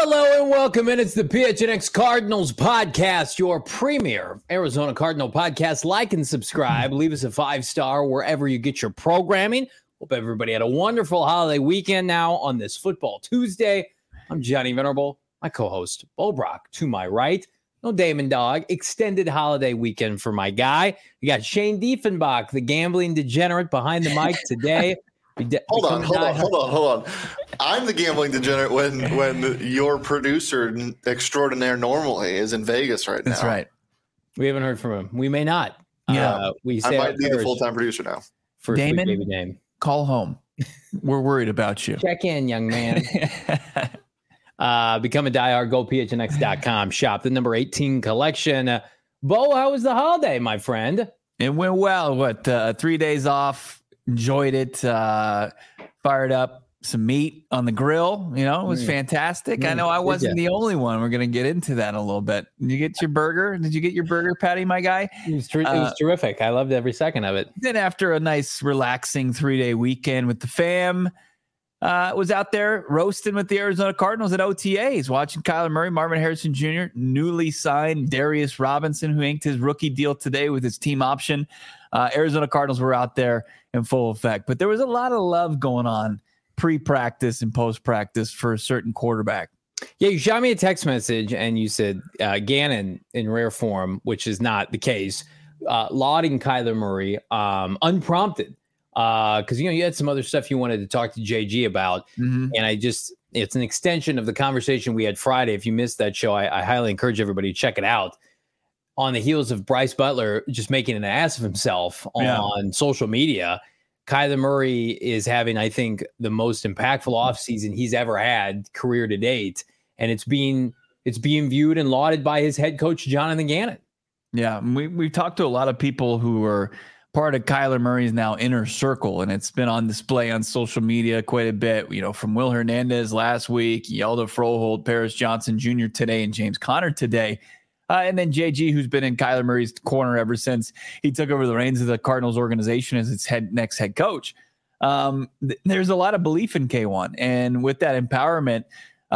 Hello and welcome in. It's the PHNX Cardinals podcast, your premier Arizona Cardinal podcast. Like and subscribe. Leave us a 5-star wherever you get your programming. Hope everybody had a wonderful holiday weekend now on this Football Tuesday. I'm Johnny Venerable, my co-host, Bo Brock, to my right. No Damon Dog. Extended holiday weekend for my guy. You got Shane Diefenbach, the gambling degenerate, behind the mic today. Hold on. I'm the gambling degenerate when your producer extraordinaire normally is in Vegas right now. That's right. We haven't heard from him. We may not. Yeah. I might be the full-time producer now. First Damon, week, baby name. Call home. We're worried about you. Check in, young man. Become a diehard. Go PHNX.com. Shop the number 18 collection. Bo, how was the holiday, my friend? It went well. 3 days off. Enjoyed it. Fired up some meat on the grill. You know, it was fantastic. I know I wasn't the only one. We're going to get into that in a little bit. Did you get your burger? Did you get your burger patty, my guy? It was terrific. I loved every second of it. Then after a nice, relaxing 3-day weekend with the fam, was out there roasting with the Arizona Cardinals at OTAs, watching Kyler Murray, Marvin Harrison Jr., newly signed Darius Robinson, who inked his rookie deal today with his team option. Arizona Cardinals were out there in full effect, but there was a lot of love going on pre-practice and post-practice for a certain quarterback. Yeah, you shot me a text message and you said Gannon in rare form, which is not the case, lauding Kyler Murray unprompted. Because, you had some other stuff you wanted to talk to JG about. Mm-hmm. And it's an extension of the conversation we had Friday. If you missed that show, I highly encourage everybody to check it out. On the heels of Bryce Butler just making an ass of himself on social media, Kyler Murray is having, I think, the most impactful offseason he's ever had career to date. And it's being viewed and lauded by his head coach, Jonathan Gannon. Yeah, we've talked to a lot of people who are part of Kyler Murray's now inner circle, and it's been on display on social media quite a bit. From Will Hernandez last week, Yelda Froholt, Paris Johnson Jr. today, and James Conner today. And then JG, who's been in Kyler Murray's corner ever since he took over the reins of the Cardinals organization as its next head coach. There's a lot of belief in K1. And with that empowerment,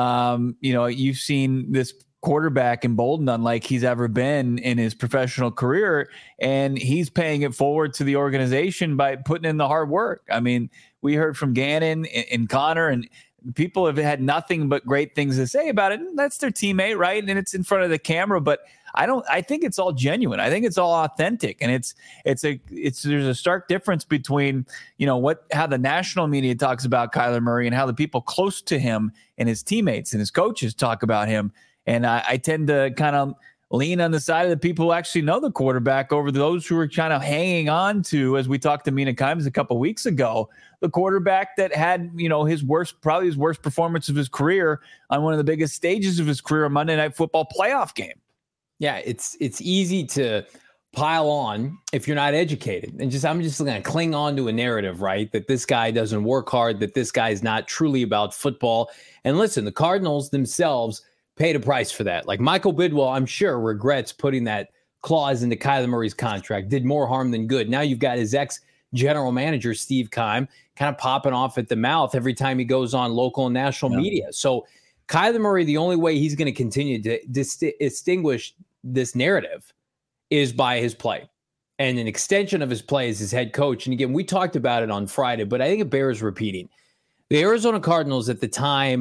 you've seen this quarterback emboldened unlike he's ever been in his professional career. And he's paying it forward to the organization by putting in the hard work. I mean, we heard from Gannon and Connor, and people have had nothing but great things to say about it. And that's their teammate, right? And it's in front of the camera, but I think it's all genuine. I think it's all authentic. And there's a stark difference between, how the national media talks about Kyler Murray and how the people close to him and his teammates and his coaches talk about him. And I tend to kind of lean on the side of the people who actually know the quarterback over those who are kind of hanging on to, as we talked to Mina Kimes a couple of weeks ago, the quarterback that had, his worst performance of his career on one of the biggest stages of his career, a Monday Night Football playoff game. Yeah, it's easy to pile on if you're not educated. And I'm just going to cling on to a narrative, right? That this guy doesn't work hard, that this guy is not truly about football. And listen, the Cardinals themselves paid a price for that. Like Michael Bidwell, I'm sure, regrets putting that clause into Kyler Murray's contract. Did more harm than good. Now you've got his ex-general manager, Steve Keim, kind of popping off at the mouth every time he goes on local and national media. So Kyler Murray, the only way he's going to continue to distinguish this narrative is by his play. And an extension of his play is his head coach. And again, we talked about it on Friday, but I think it bears repeating. The Arizona Cardinals at the time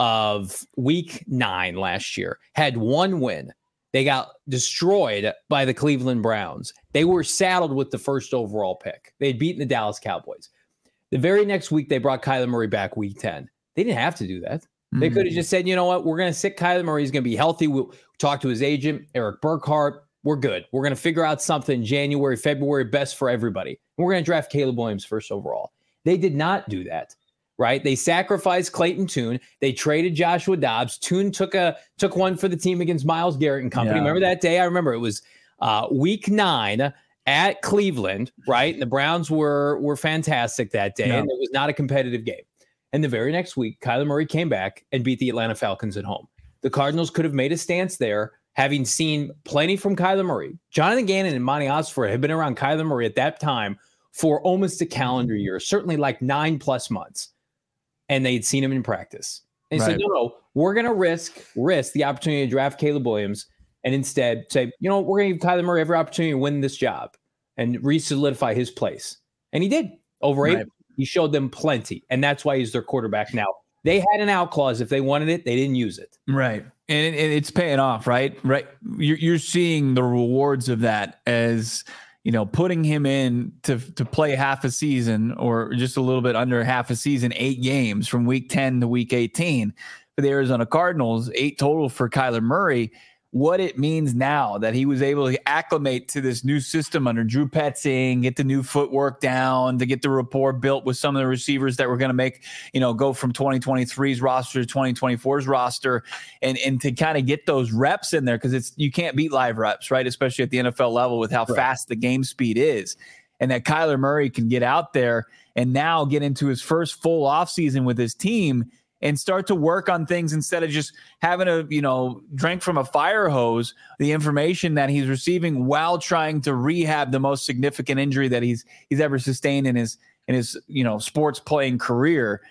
of week 9 last year had one win. They got destroyed by the Cleveland Browns. They were saddled with the first overall pick. They'd beaten the Dallas Cowboys. The very next week, they brought Kyler Murray back week 10. They didn't have to do that. They could have just said, you know what, we're going to sit Kyler Murray. He's going to be healthy. We'll talk to his agent, Eric Burkhart. We're good. We're going to figure out something January, February, best for everybody. We're going to draft Caleb Williams first overall. They did not do that. Right? They sacrificed Clayton Tune. They traded Joshua Dobbs. Tune took one for the team against Myles Garrett and company. Yeah. Remember that day? I remember it was week 9 at Cleveland, right? And the Browns were fantastic that day, and it was not a competitive game. And the very next week, Kyler Murray came back and beat the Atlanta Falcons at home. The Cardinals could have made a stance there, having seen plenty from Kyler Murray. Jonathan Gannon and Monty Osford had been around Kyler Murray at that time for almost a calendar year, certainly like 9+ months. And they'd seen him in practice. And he said, no, we're going to risk the opportunity to draft Caleb Williams and instead say, we're going to give Kyler Murray every opportunity to win this job and re-solidify his place. And he did. Over 8, he showed them plenty. And that's why he's their quarterback now. They had an out clause. If they wanted it, they didn't use it. Right. And it's paying off, right? Right. You're seeing the rewards of that as, putting him in to play half a season or just a little bit under half a season, 8 games from week 10 to week 18 for the Arizona Cardinals, 8 total for Kyler Murray. What it means now that he was able to acclimate to this new system under Drew Petzing, get the new footwork down, to get the rapport built with some of the receivers that were going to make, go from 2023's roster to 2024's roster and to kind of get those reps in there because you can't beat live reps, right? Especially at the NFL level with how fast the game speed is. And that Kyler Murray can get out there and now get into his first full offseason with his team and start to work on things instead of just having to, drink from a fire hose, the information that he's receiving while trying to rehab the most significant injury that he's ever sustained in his sports playing career.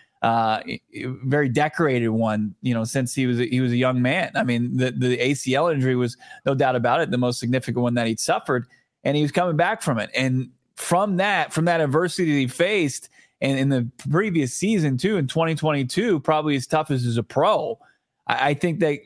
Very decorated one, since he was a young man. I mean, the ACL injury was no doubt about it, the most significant one that he'd suffered, and he was coming back from it. And from that adversity that he faced, and in the previous season, too, in 2022, probably as tough as a pro, I think that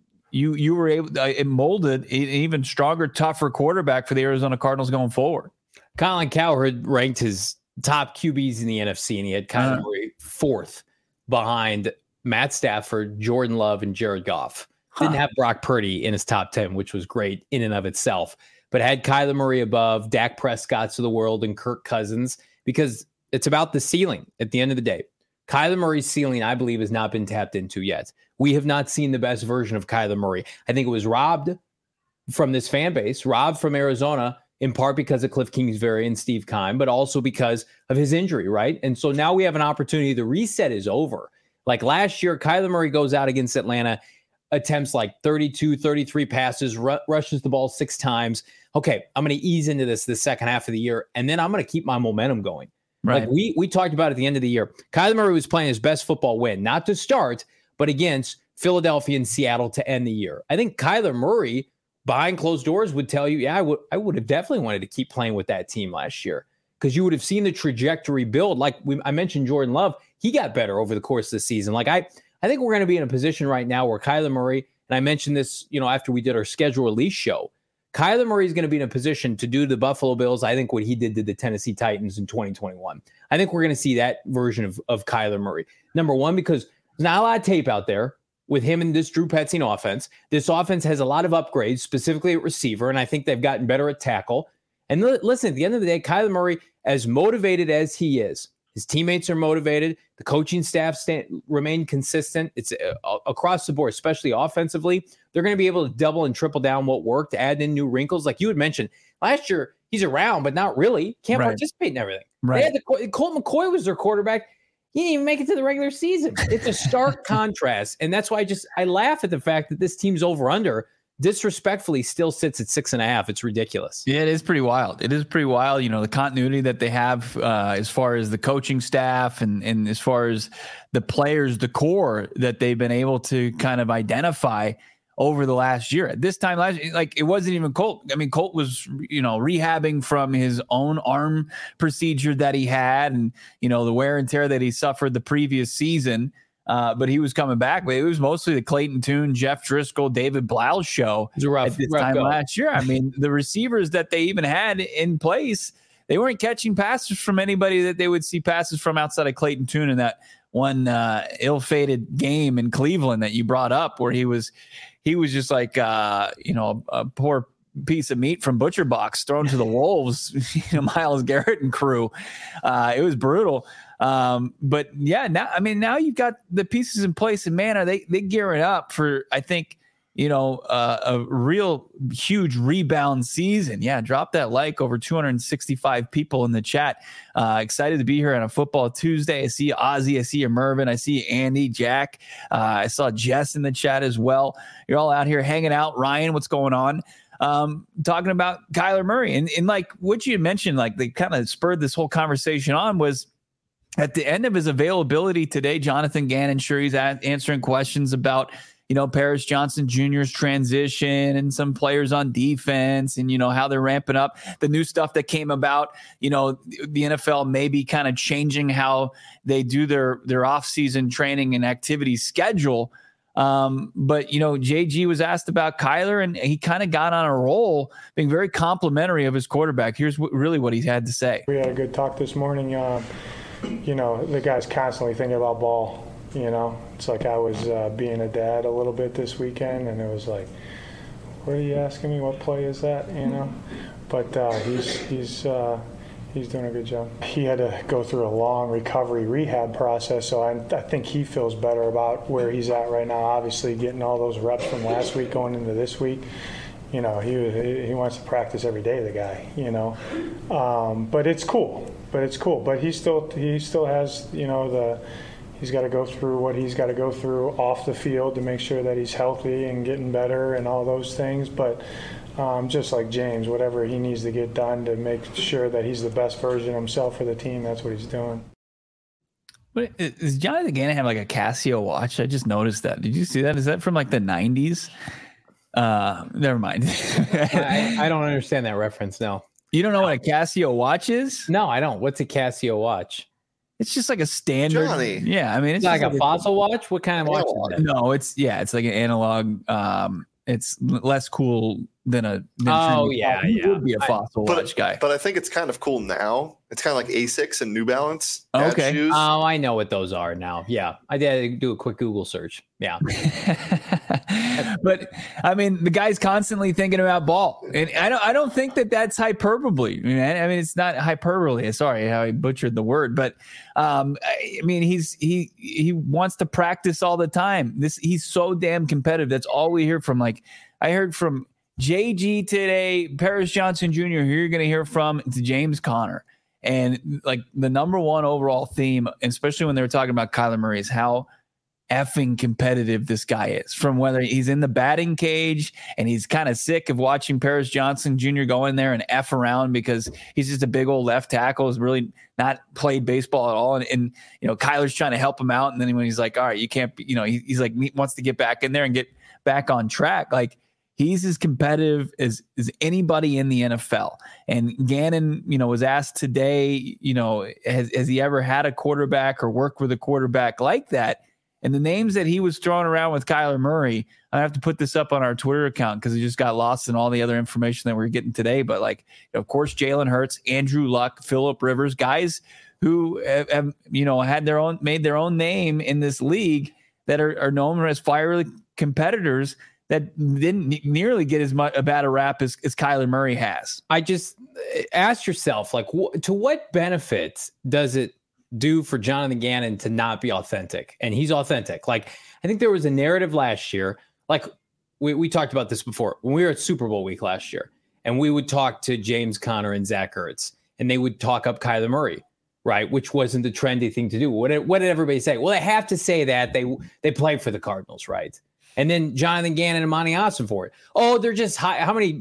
you were able to, it molded an even stronger, tougher quarterback for the Arizona Cardinals going forward. Colin Cowherd ranked his top QBs in the NFC, and he had Kyler Murray 4th behind Matt Stafford, Jordan Love, and Jared Goff. Didn't have Brock Purdy in his top 10, which was great in and of itself, but had Kyler Murray above Dak Prescott's of the world and Kirk Cousins because it's about the ceiling at the end of the day. Kyler Murray's ceiling, I believe, has not been tapped into yet. We have not seen the best version of Kyler Murray. I think it was robbed from this fan base, robbed from Arizona, in part because of Cliff Kingsbury and Steve Keim, but also because of his injury, right? And so now we have an opportunity. The reset is over. Like last year, Kyler Murray goes out against Atlanta, attempts like 32, 33 passes, rushes the ball 6 times. Okay, I'm going to ease into this the second half of the year, and then I'm going to keep my momentum going. Right. Like we talked about at the end of the year, Kyler Murray was playing his best football win, not to start, but against Philadelphia and Seattle to end the year. I think Kyler Murray, behind closed doors, would tell you, I would have definitely wanted to keep playing with that team last year because you would have seen the trajectory build. Like I mentioned, Jordan Love, he got better over the course of the season. Like I think we're going to be in a position right now where Kyler Murray, and I mentioned this, after we did our schedule release show, Kyler Murray is going to be in a position to do to the Buffalo Bills, I think, what he did to the Tennessee Titans in 2021. I think we're going to see that version of Kyler Murray. Number one, because there's not a lot of tape out there with him and this Drew Petzing offense. This offense has a lot of upgrades, specifically at receiver, and I think they've gotten better at tackle. And listen, at the end of the day, Kyler Murray, as motivated as he is, his teammates are motivated. The coaching staff remain consistent. It's across the board, especially offensively. They're going to be able to double and triple down what worked, add in new wrinkles. Like you had mentioned, last year, he's around, but not really. Can't participate in everything. Right. Colt McCoy was their quarterback. He didn't even make it to the regular season. It's a stark contrast. And that's why I laugh at the fact that this team's over-under disrespectfully still sits at 6.5. It's ridiculous. Yeah, it is pretty wild. The continuity that they have as far as the coaching staff and as far as the players, the core that they've been able to kind of identify over the last year. At this time last year, like it wasn't even Colt. I mean, Colt was, rehabbing from his own arm procedure that he had and, the wear and tear that he suffered the previous season. But he was coming back. But it was mostly the Clayton Tune, Jeff Driscoll, David Blau show at this time last year. I mean, the receivers that they even had in place, they weren't catching passes from anybody that they would see passes from outside of Clayton Tune in that one ill-fated game in Cleveland that you brought up, where he was just like a poor piece of meat from Butcher Box thrown to the wolves, Myles Garrett and crew. It was brutal. But yeah, now you've got the pieces in place, and man, are they gearing up for, I think, a real huge rebound season. Yeah. Drop that like. Over 265 people in the chat. Excited to be here on a Football Tuesday. I see Ozzy. I see you, Mervin. I see Andy, Jack. I saw Jess in the chat as well. You're all out here hanging out. Ryan, what's going on? Talking about Kyler Murray and like what you mentioned, like they kind of spurred this whole conversation on was, at the end of his availability today, Jonathan Gannon, sure, he's answering questions about, Paris Johnson Jr.'s transition and some players on defense and, how they're ramping up the new stuff that came about. The NFL may be kind of changing how they do their off-season training and activity schedule. But JG was asked about Kyler, and he kind of got on a roll, being very complimentary of his quarterback. Here's really what he had to say. We had a good talk this morning. The guy's constantly thinking about ball. It's like I was being a dad a little bit this weekend, and it was like, what are you asking me? What play is that? But he's doing a good job. He had to go through a long recovery rehab process, so I think he feels better about where he's at right now. Obviously, getting all those reps from last week going into this week, he wants to practice every day. The guy, but it's cool. But he still has he's got to go through what he's got to go through off the field to make sure that he's healthy and getting better and all those things. But just like James, whatever he needs to get done to make sure that he's the best version of himself for the team, that's what he's doing. But does Jonathan Gannon have like a Casio watch? I just noticed that. Did you see that? Is that from like the 90s? Never mind. I don't understand that reference. No. You don't know what a Casio watch is? No, I don't. What's a Casio watch? It's just like a standard. Johnny. Yeah, I mean, it's like a Fossil watch. What kind of watch is that? No, it's like an analog. It's less cool than a. You would be a Fossil watch guy. But I think it's kind of cool now. It's kind of like Asics and New Balance. Okay. Shoes. Oh, I know what those are now. Yeah, I did do a quick Google search. Yeah. But I mean, the guy's constantly thinking about ball, and I don't think that that's hyperbole. I mean, it's not hyperbole. Sorry, how I butchered the word, but I mean, he wants to practice all the time. He's so damn competitive. That's all we hear from. Like I heard from JG today, Paris Johnson Jr. Who you're going to hear from to James Conner, and like the number one overall theme, especially when they were talking about Kyler Murray, is how effing competitive this guy is. From whether he's in the batting cage and he's kind of sick of watching Paris Johnson Jr. go in there and F around because he's just a big old left tackle, has really not played baseball at all. And Kyler's trying to help him out. And then when he's like, all right, you can't be, he's like, he wants to get back in there and get back on track. Like he's as competitive as anybody in the NFL. And Gannon, was asked today, has he ever had a quarterback or worked with a quarterback like that? And the names that he was throwing around with Kyler Murray, I have to put this up on our Twitter account because it just got lost in all the other information that we're getting today. But of course, Jalen Hurts, Andrew Luck, Phillip Rivers, guys who have made their own name in this league that are known as fiery competitors that didn't nearly get as much a bad a rap as Kyler Murray has. I just ask yourself, to what benefit does it do for Jonathan Gannon to not be authentic? And he's authentic. I think there was a narrative last year, we talked about this before when we were at Super Bowl week last year, and we would talk to James Conner and Zach Ertz, and they would talk up Kyler Murray, right? Which wasn't the trendy thing to do. What did everybody say? Well, they have to say that they play for the Cardinals, right? And then Jonathan Gannon and Monty Austin for it. Oh, they're just high. How many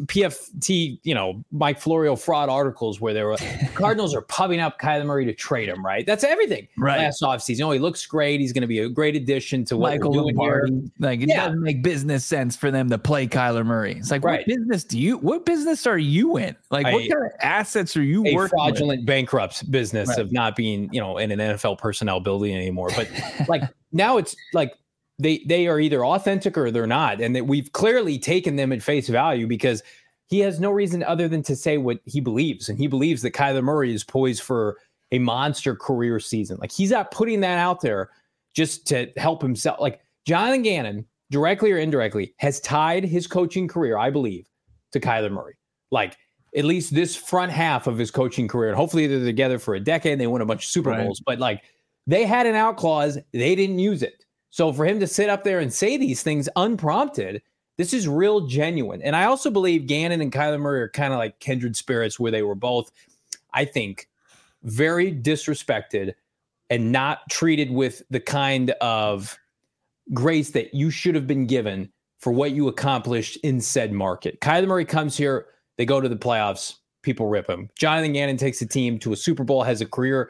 PFT, Mike Florio fraud articles where there were Cardinals are pubbing up Kyler Murray to trade him, right? That's everything. Right. Last offseason. He looks great. He's going to be a great addition to what Michael we're doing Lombardi. here. It doesn't make business sense for them to play Kyler Murray. It's like, right. What business are you in? What kind of assets are you working with? A fraudulent bankrupt's business of not being, in an NFL personnel building anymore. But now it's they are either authentic or they're not. And that we've clearly taken them at face value because he has no reason other than to say what he believes. And he believes that Kyler Murray is poised for a monster career season. He's not putting that out there just to help himself. Jonathan Gannon, directly or indirectly, has tied his coaching career, I believe, to Kyler Murray. At least this front half of his coaching career. And hopefully they're together for a decade and they win a bunch of Super Bowls. But they had an out clause. They didn't use it. So for him to sit up there and say these things unprompted, this is real genuine. And I also believe Gannon and Kyler Murray are kind of like kindred spirits where they were both, I think, very disrespected and not treated with the kind of grace that you should have been given for what you accomplished in said market. Kyler Murray comes here, they go to the playoffs, people rip him. Jonathan Gannon takes a team to a Super Bowl, has a career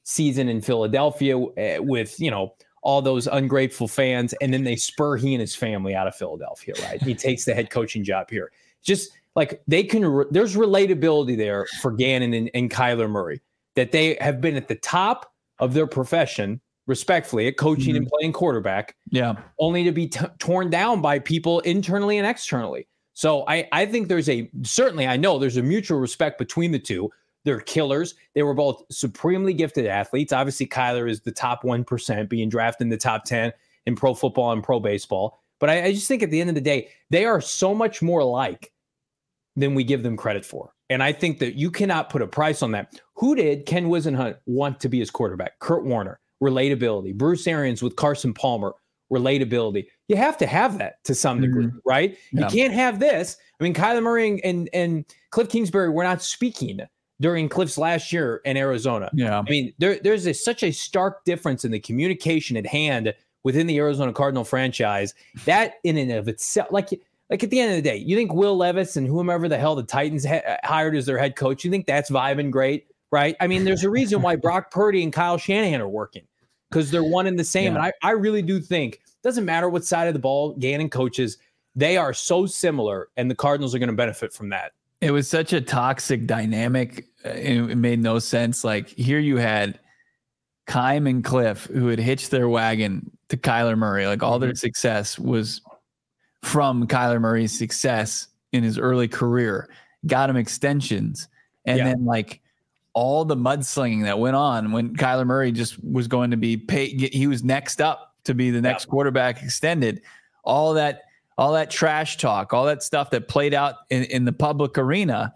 season in Philadelphia with, all those ungrateful fans. And then they spur he and his family out of Philadelphia, right? He takes the head coaching job here. Just like there's relatability there for Gannon and Kyler Murray, that they have been at the top of their profession, respectfully, at coaching and playing quarterback, only to be torn down by people internally and externally. So I think I know there's a mutual respect between the two. They're killers. They were both supremely gifted athletes. Obviously, Kyler is the top 1%, being drafted in the top 10 in pro football and pro baseball. But I just think at the end of the day, they are so much more alike than we give them credit for. And I think that you cannot put a price on that. Who did Ken Whisenhunt want to be his quarterback? Kurt Warner, relatability. Bruce Arians with Carson Palmer, relatability. You have to have that to some degree, right? Yeah. You can't have this. I mean, Kyler Murray and Cliff Kingsbury were not speaking during Cliff's last year in Arizona. Yeah. I mean, there's such a stark difference in the communication at hand within the Arizona Cardinal franchise that in and of itself, like at the end of the day, you think Will Levis and whomever the hell the Titans hired as their head coach, you think that's vibing great, right? I mean, there's a reason why Brock Purdy and Kyle Shanahan are working, because they're one and the same. Yeah. And I really do think it doesn't matter what side of the ball Gannon coaches, they are so similar, and the Cardinals are going to benefit from that. It was such a toxic dynamic. It made no sense. Like, here you had Keim and Cliff, who had hitched their wagon to Kyler Murray. Like, all their success was from Kyler Murray's success in his early career, got him extensions. And then like all the mudslinging that went on when Kyler Murray just was going to be paid. He was next up to be the next quarterback extended. All that trash talk, all that stuff that played out in the public arena.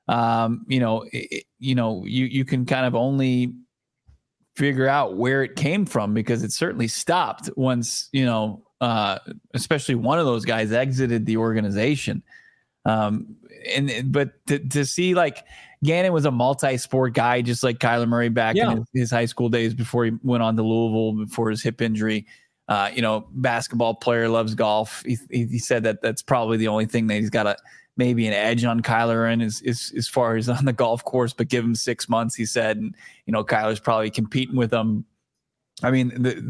You can kind of only figure out where it came from, because it certainly stopped once, especially one of those guys exited the organization. But to see, like, Gannon was a multi-sport guy, just like Kyler Murray back in his high school days before he went on to Louisville before his hip injury. Basketball player, loves golf. He said that's probably the only thing that he's got maybe an edge on Kyler in is as far as on the golf course, but give him 6 months, he said. And, Kyler's probably competing with him. I mean,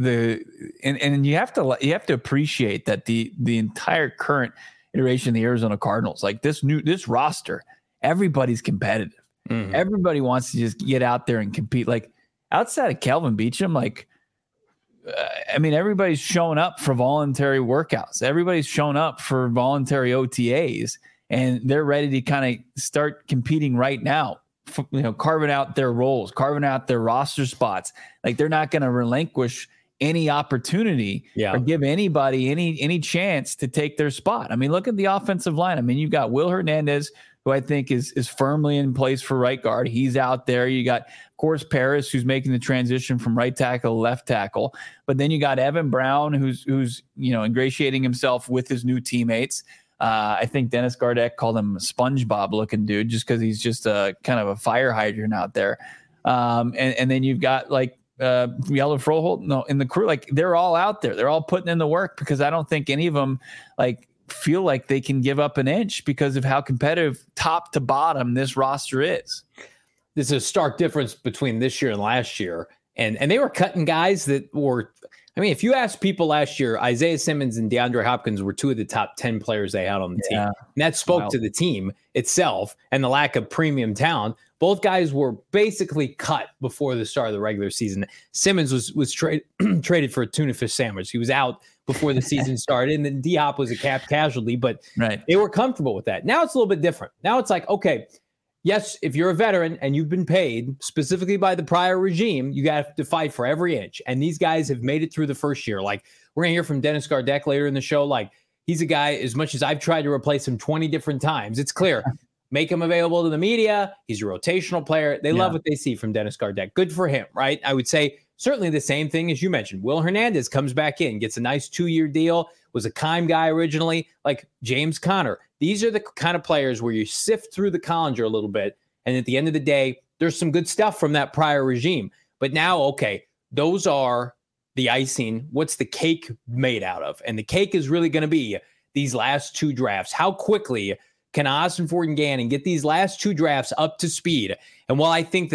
and you have to appreciate that the entire current iteration of the Arizona Cardinals, like this roster, everybody's competitive. Mm-hmm. Everybody wants to just get out there and compete. Like, outside of Kelvin Beachum, like, everybody's showing up for voluntary workouts. Everybody's shown up for voluntary OTAs, and they're ready to kind of start competing right now. Carving out their roles, carving out their roster spots. Like, they're not going to relinquish any opportunity or give anybody any chance to take their spot. I mean, look at the offensive line. I mean, you've got Will Hernandez, who I think is firmly in place for right guard. He's out there. You got, of course, Paris, who's making the transition from right tackle to left tackle. But then you got Evan Brown, who's ingratiating himself with his new teammates. I think Dennis Gardeck called him a SpongeBob looking dude, just because he's just a kind of a fire hydrant out there. And then you've got like Yellow Froholt in the crew. Like, they're all out there. They're all putting in the work, because I don't think any of them feel like they can give up an inch because of how competitive top to bottom this roster is. There's a stark difference between this year and last year. And they were cutting guys that were, if you ask people last year, Isaiah Simmons and DeAndre Hopkins were two of the top 10 players they had on the team. And that spoke to the team itself and the lack of premium talent. Both guys were basically cut before the start of the regular season. Simmons was traded for a tuna fish sandwich. He was out before the season started, and then D-Hop was a cap casualty, but they were comfortable with that. Now it's a little bit different. Now it's like, okay, yes, if you're a veteran and you've been paid specifically by the prior regime, you got to fight for every inch. And these guys have made it through the first year. Like, we're going to hear from Dennis Gardeck later in the show. Like, he's a guy, as much as I've tried to replace him 20 different times, it's clear. Make him available to the media. He's a rotational player. They love what they see from Dennis Gardeck. Good for him, right? I would say certainly the same thing as you mentioned. Will Hernandez comes back in, gets a nice 2-year deal, was a Keim guy originally, like James Conner. These are the kind of players where you sift through the colander a little bit, and at the end of the day, there's some good stuff from that prior regime. But now, okay, those are the icing. What's the cake made out of? And the cake is really going to be these last 2 drafts. How quickly can Ossenfort and Gannon get these last 2 drafts up to speed? And while I think that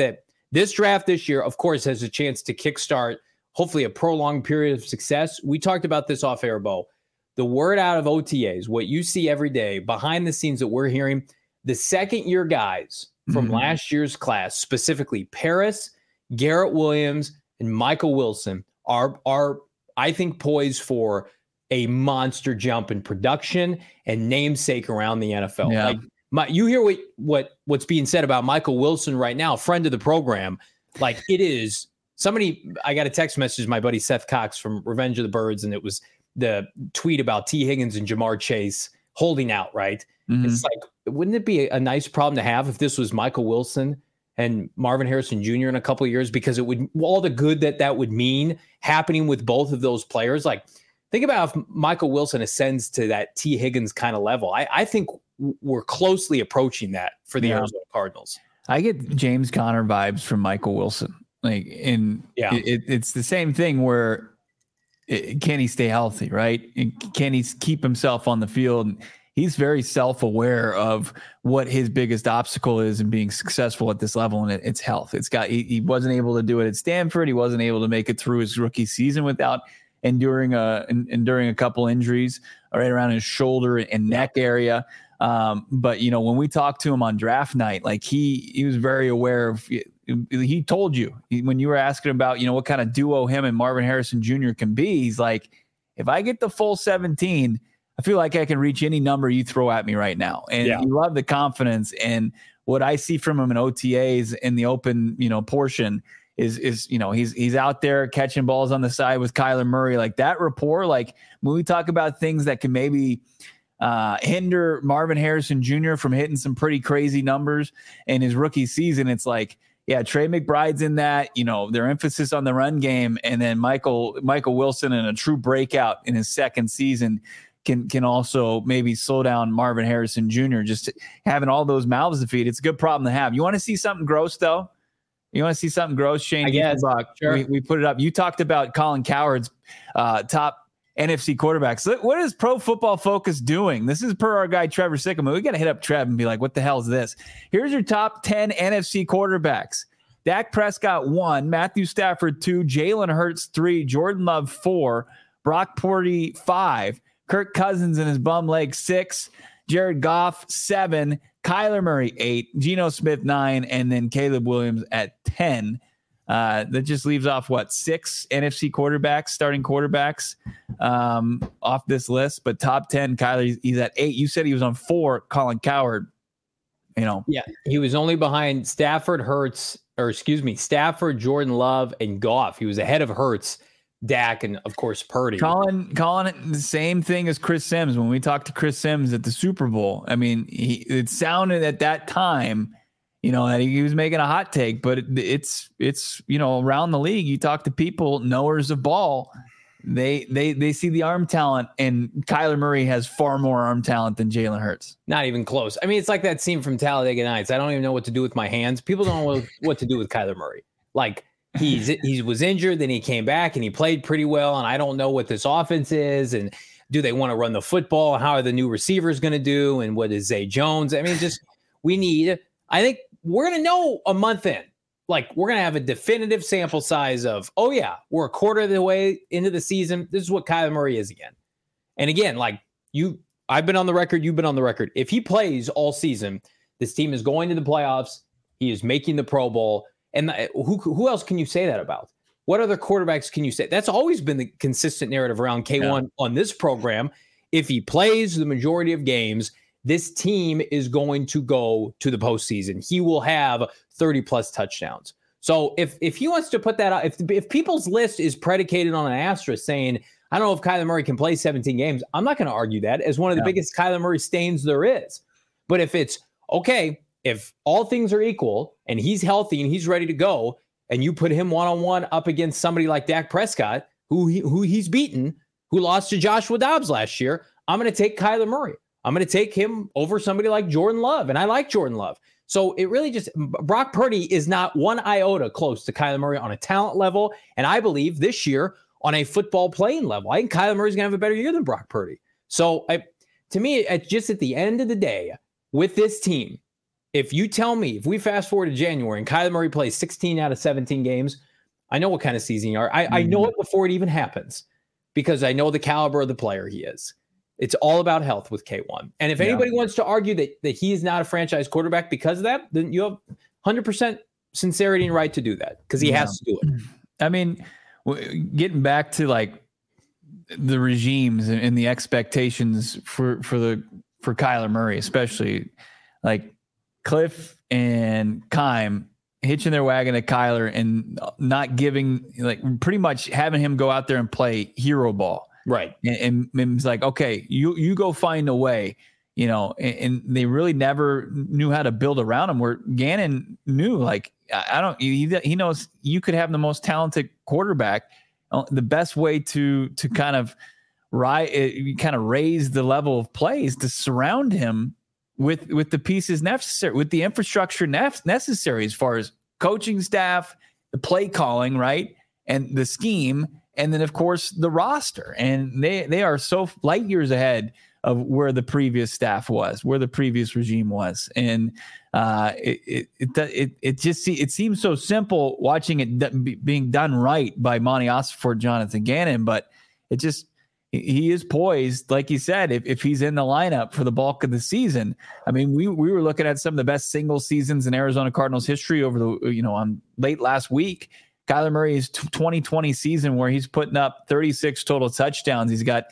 This draft this year, of course, has a chance to kickstart hopefully a prolonged period of success. We talked about this off air, Bo. The word out of OTAs, what you see every day behind the scenes that we're hearing, the second-year guys from last year's class, specifically Paris, Garrett Williams, and Michael Wilson, are I think, poised for a monster jump in production and namesake around the NFL. Yeah. Like you hear what's being said about Michael Wilson right now, friend of the program. Like it is somebody. I got a text message, my buddy Seth Cox from Revenge of the Birds, and it was the tweet about T. Higgins and Jamar Chase holding out. Right? It's like, wouldn't it be a nice problem to have if this was Michael Wilson and Marvin Harrison Jr. in a couple of years? Because it would, all the good that would mean happening with both of those players. Like, think about if Michael Wilson ascends to that T. Higgins kind of level. I think we're closely approaching that for the Arizona Cardinals. I get James Conner vibes from Michael Wilson. Like, it's the same thing where can he stay healthy, right? Can he keep himself on the field? He's very self-aware of what his biggest obstacle is in being successful at this level, and it's health. He wasn't able to do it at Stanford. He wasn't able to make it through his rookie season without enduring a couple injuries right around his shoulder and neck area. But when we talked to him on draft night, like he was very aware of. He told you when you were asking about what kind of duo him and Marvin Harrison Jr. can be. He's like, if I get the full 17, I feel like I can reach any number you throw at me right now. And you love the confidence. And what I see from him in OTAs in the open, portion is he's out there catching balls on the side with Kyler Murray. Like that rapport, like when we talk about things that can maybe hinder Marvin Harrison Jr. from hitting some pretty crazy numbers in his rookie season, it's like, yeah, Trey McBride's in that, their emphasis on the run game. And then Michael Wilson in a true breakout in his second season can also maybe slow down Marvin Harrison Jr. Just having all those mouths to feed. It's a good problem to have. You want to see something gross, though? You want to see something gross, Shane? I guess. Sure. We put it up. You talked about Colin Cowherd's top NFC quarterbacks. Look, what is Pro Football Focus doing? This is per our guy, Trevor Sickleman. We got to hit up Trev and be like, what the hell is this? Here's your top 10 NFC quarterbacks. Dak Prescott 1, Matthew Stafford 2, Jalen Hurts 3, Jordan Love 4, Brock Purdy 5, Kirk Cousins and his bum leg 6, Jared Goff 7, Kyler Murray 8, Geno Smith 9, and then Caleb Williams at 10. That just leaves off 6 NFC quarterbacks, starting quarterbacks off this list. But top 10, Kyler, he's at 8. You said he was on 4, Colin Cowherd. Yeah, he was only behind Stafford, Jordan Love, and Goff. He was ahead of Hurts, Dak, and of course Purdy. Calling it the same thing as Chris Sims. When we talked to Chris Sims at the Super Bowl, I mean, it sounded at that time, that he was making a hot take, but it's around the league. You talk to people, knowers of ball, they see the arm talent, and Kyler Murray has far more arm talent than Jalen Hurts. Not even close. I mean, it's like that scene from Talladega Nights. I don't even know what to do with my hands. People don't know what to do with Kyler Murray. Like, he was injured, then he came back and he played pretty well. And I don't know what this offense is. And do they want to run the football? How are the new receivers going to do? And what is Zay Jones? I mean, I think we're going to know a month in. Like, we're going to have a definitive sample size of, oh yeah, we're a quarter of the way into the season. This is what Kyler Murray is again. And again, like I've been on the record. You've been on the record. If he plays all season, this team is going to the playoffs. He is making the Pro Bowl. And who else can you say that about? What other quarterbacks can you say? That's always been the consistent narrative around K1 on this program. If he plays the majority of games, this team is going to go to the postseason. He will have 30-plus touchdowns. So if he wants to put that out, if people's list is predicated on an asterisk saying, I don't know if Kyler Murray can play 17 games, I'm not going to argue that as one of the biggest Kyler Murray stains there is. But if it's, okay, if all things are equal and he's healthy and he's ready to go, and you put him one-on-one up against somebody like Dak Prescott, who he's beaten, who lost to Joshua Dobbs last year, I'm going to take Kyler Murray. I'm going to take him over somebody like Jordan Love, and I like Jordan Love. So it really Brock Purdy is not one iota close to Kyler Murray on a talent level, and I believe this year on a football playing level. I think Kyler Murray's going to have a better year than Brock Purdy. So to me, just at the end of the day, with this team, if you tell me, if we fast forward to January and Kyler Murray plays 16 out of 17 games, I know what kind of season you are. I know it before it even happens because I know the caliber of the player he is. It's all about health with K1. And if anybody wants to argue that he is not a franchise quarterback because of that, then you have 100% sincerity and right to do that because he has to do it. I mean, getting back to like the regimes and the expectations for Kyler Murray, especially like Cliff and Keim hitching their wagon to Kyler and not giving, like pretty much having him go out there and play hero ball. Right. And it's like, okay, you go find a way, and they really never knew how to build around him, where Gannon knew, like, he knows you could have the most talented quarterback. The best way to kind of raise the level of plays to surround him with the pieces necessary, with the infrastructure necessary as far as coaching staff, the play calling, right, and the scheme. And then, of course, the roster. And they are so light years ahead of where the previous staff was, where the previous regime was. And it seems so simple watching it being done right by Monty Ossenfort, Jonathan Gannon. But he is poised, like you said, if he's in the lineup for the bulk of the season. I mean, we were looking at some of the best single seasons in Arizona Cardinals history over on late last week. Kyler Murray's 2020 season where he's putting up 36 total touchdowns. He's got,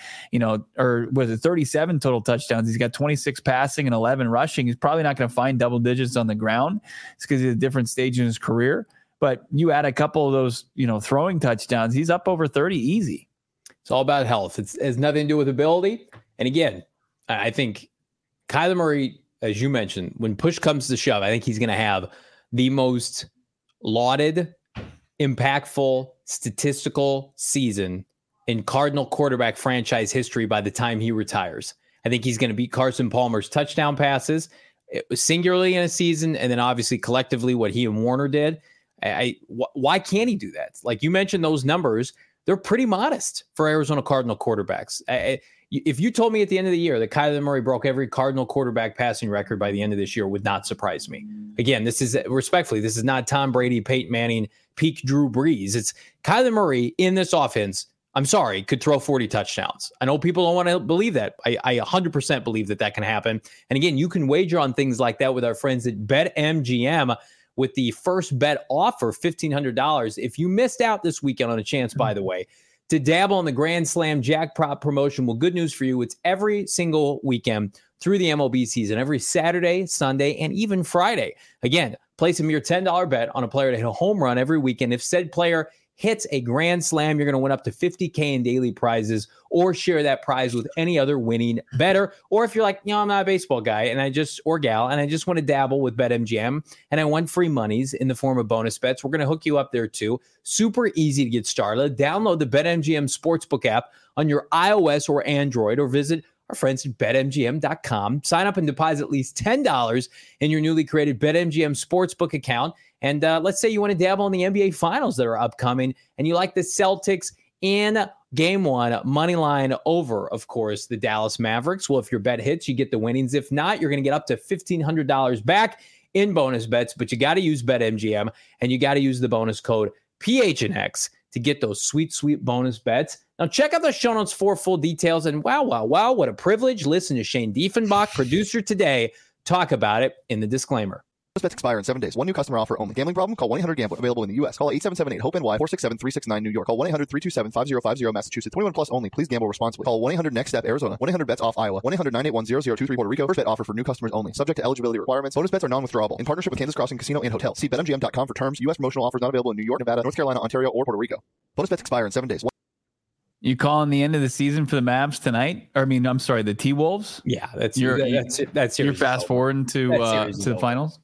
37 total touchdowns. He's got 26 passing and 11 rushing. He's probably not going to find double digits on the ground. It's because he's at a different stage in his career. But you add a couple of those, throwing touchdowns, he's up over 30 easy. It's all about health. It has nothing to do with ability. And again, I think Kyler Murray, as you mentioned, when push comes to shove, I think he's going to have the most lauded, impactful, statistical season in Cardinal quarterback franchise history by the time he retires. I think he's going to beat Carson Palmer's touchdown passes. It was singularly in a season, and then obviously collectively what he and Warner did. Why can't he do that? Like you mentioned, those numbers, they're pretty modest for Arizona Cardinal quarterbacks. If you told me at the end of the year that Kyler Murray broke every Cardinal quarterback passing record by the end of this year, would not surprise me. Again, this is not Tom Brady, Peyton Manning, peak Drew Brees. It's Kyler Murray in this offense. I'm sorry, could throw 40 touchdowns. I know people don't want to believe that. I 100% believe that can happen. And again, you can wager on things like that with our friends at BetMGM with the first bet offer, $1,500. If you missed out this weekend on a chance, by the way, to dabble in the Grand Slam jackpot promotion, well, good news for you. It's every single weekend through the MLB season, every Saturday, Sunday, and even Friday. Again, place a mere $10 bet on a player to hit a home run every weekend. If said player hits a Grand Slam, you're going to win up to $50K in daily prizes or share that prize with any other winning bettor. Or if you're like, I'm not a baseball guy and I just want to dabble with BetMGM and I want free monies in the form of bonus bets, we're going to hook you up there too. Super easy to get started. Download the BetMGM Sportsbook app on your iOS or Android or visit our friends at BetMGM.com. Sign up and deposit at least $10 in your newly created BetMGM Sportsbook account. And let's say you want to dabble in the NBA Finals that are upcoming and you like the Celtics in Game 1, money line over, of course, the Dallas Mavericks. Well, if your bet hits, you get the winnings. If not, you're going to get up to $1,500 back in bonus bets. But you got to use BetMGM and you got to use the bonus code PHNX to get those sweet, sweet bonus bets. Now, check out the show notes for full details. And wow, what a privilege. Listen to Shane Diefenbach, producer today, talk about it in the disclaimer. Bets expire in 7 days. One new customer offer only. Gambling problem? Call 1-800-GAMBLER. Available in the U.S. Call 877-8-HOPE-NY 467-369 New York. Call 1-800-327-5050 Massachusetts. 21 plus only. Please gamble responsibly. Call 1-800-NEXT-STEP Arizona. 1-800-BETS-OFF Iowa. 1-800-981-0023 Puerto Rico. First bet offer for new customers only. Subject to eligibility requirements. Bonus bets are non-withdrawable. In partnership with Kansas Crossing Casino and Hotel. See BetMGM.com for terms. U.S. promotional offers not available in New York, Nevada, North Carolina, Ontario, or Puerto Rico. Bonus bets expire in 7 days. You calling the end of the season for the Mavs tonight? Or, I'm sorry, the T-Wolves? Yeah, that's you're fast forwarding to the finals.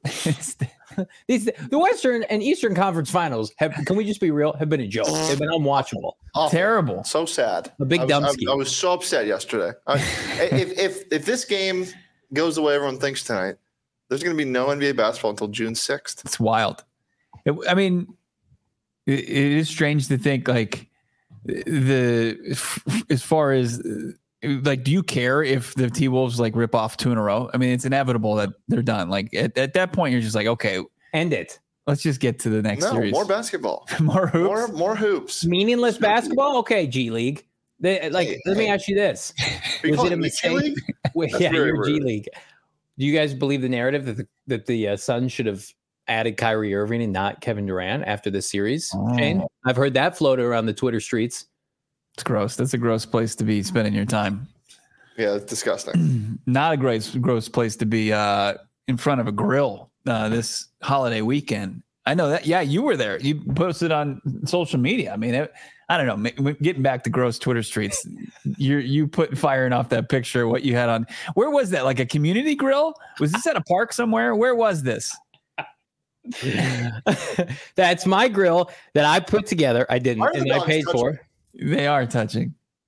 The Western and Eastern Conference Finals have been a joke. They've been unwatchable. Awful. Terrible. So sad. A big dumpster. I was so upset yesterday. If this game goes the way everyone thinks tonight, there's going to be no NBA basketball until June 6th. It's wild. It is strange to think like as far as Like, do you care if the T-Wolves like rip off 2 in a row? I mean, it's inevitable that they're done. Like at that point, you're just like, okay, end it. Let's just get to the next series. More basketball. More hoops. More hoops. Meaningless basketball? Okay, G League. Let me ask you this. Was it a mistake? Yeah, you're G League. Do you guys believe the narrative that the Suns should have added Kyrie Irving and not Kevin Durant after this series? Shane? I've heard that floated around the Twitter streets. It's gross. That's a gross place to be spending your time. Yeah, it's disgusting. Not a gross place to be in front of a grill this holiday weekend. I know that. Yeah, you were there. You posted on social media. I mean, I don't know. Getting back to gross Twitter streets, you put firing off that picture. What you had on? Where was that? Like a community grill? Was this at a park somewhere? Where was this? That's my grill that I put together. I didn't, and I paid for. They are touching.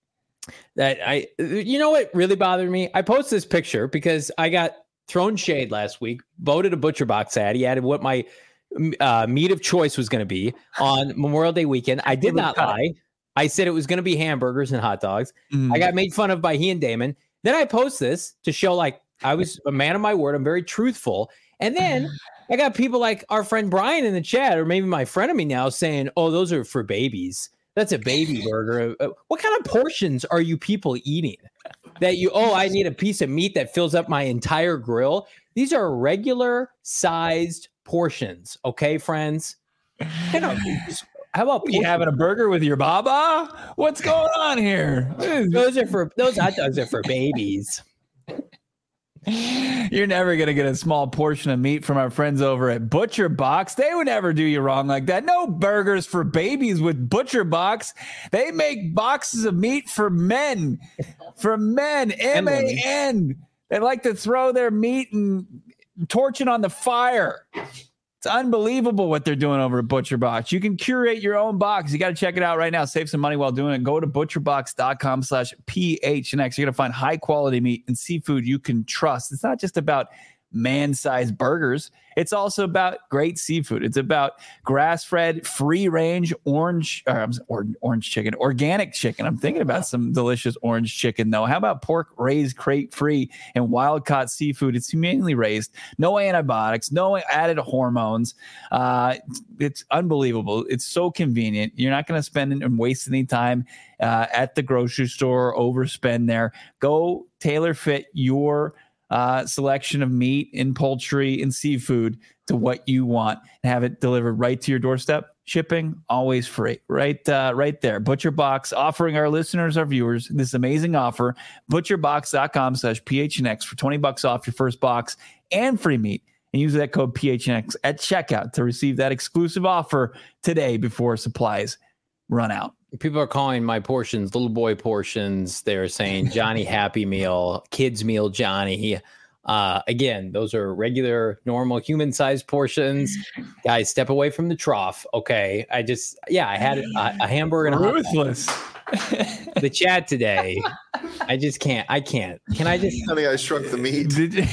You know what really bothered me? I posted this picture because I got thrown shade last week. Voted a Butcher Box ad. He added what my meat of choice was going to be on Memorial Day weekend. I did not lie. I said it was going to be hamburgers and hot dogs. I got made fun of by he and Damon. Then I post this to show like I was a man of my word. I'm very truthful. And then I got people like our friend Brian in the chat, or maybe my friend of me now, saying, "Oh, those are for babies. That's a baby burger." What kind of portions are you people eating? That I need a piece of meat that fills up my entire grill. These are regular sized portions. Okay, friends. How about you having a burger with your baba? What's going on here? Those hot dogs are for babies. You're never going to get a small portion of meat from our friends over at Butcher Box. They would never do you wrong like that. No burgers for babies with Butcher Box. They make boxes of meat for men. For men. M-A-N. They like to throw their meat and torch it on the fire. It's unbelievable what they're doing over at Butcher Box. You can curate your own box. You got to check it out right now. Save some money while doing it. Go to butcherbox.com/PHNX. You're going to find high quality meat and seafood you can trust. It's not just about man-sized burgers. It's also about great seafood. It's about grass-fed, free-range orange chicken, organic chicken. I'm thinking about some delicious orange chicken, though. How about pork raised crate-free and wild-caught seafood? It's humanely raised. No antibiotics, no added hormones. It's unbelievable. It's so convenient. You're not going to spend and waste any time at the grocery store, overspend there. Go tailor fit your selection of meat and poultry and seafood to what you want and have it delivered right to your doorstep. Shipping always free. Right there. Butcher Box offering our listeners, our viewers, this amazing offer. Butcherbox.com/PHNX for $20 off your first box and free meat. And use that code PHNX at checkout to receive that exclusive offer today before supplies run out. People are calling my portions little boy portions. They're saying Johnny Happy Meal, kids meal Johnny. Again, those are regular, normal, human-sized portions. Guys, step away from the trough. Okay, I had a hamburger and a ruthless. The chat today. I just can't. Can I just? Honey, I shrunk the meat.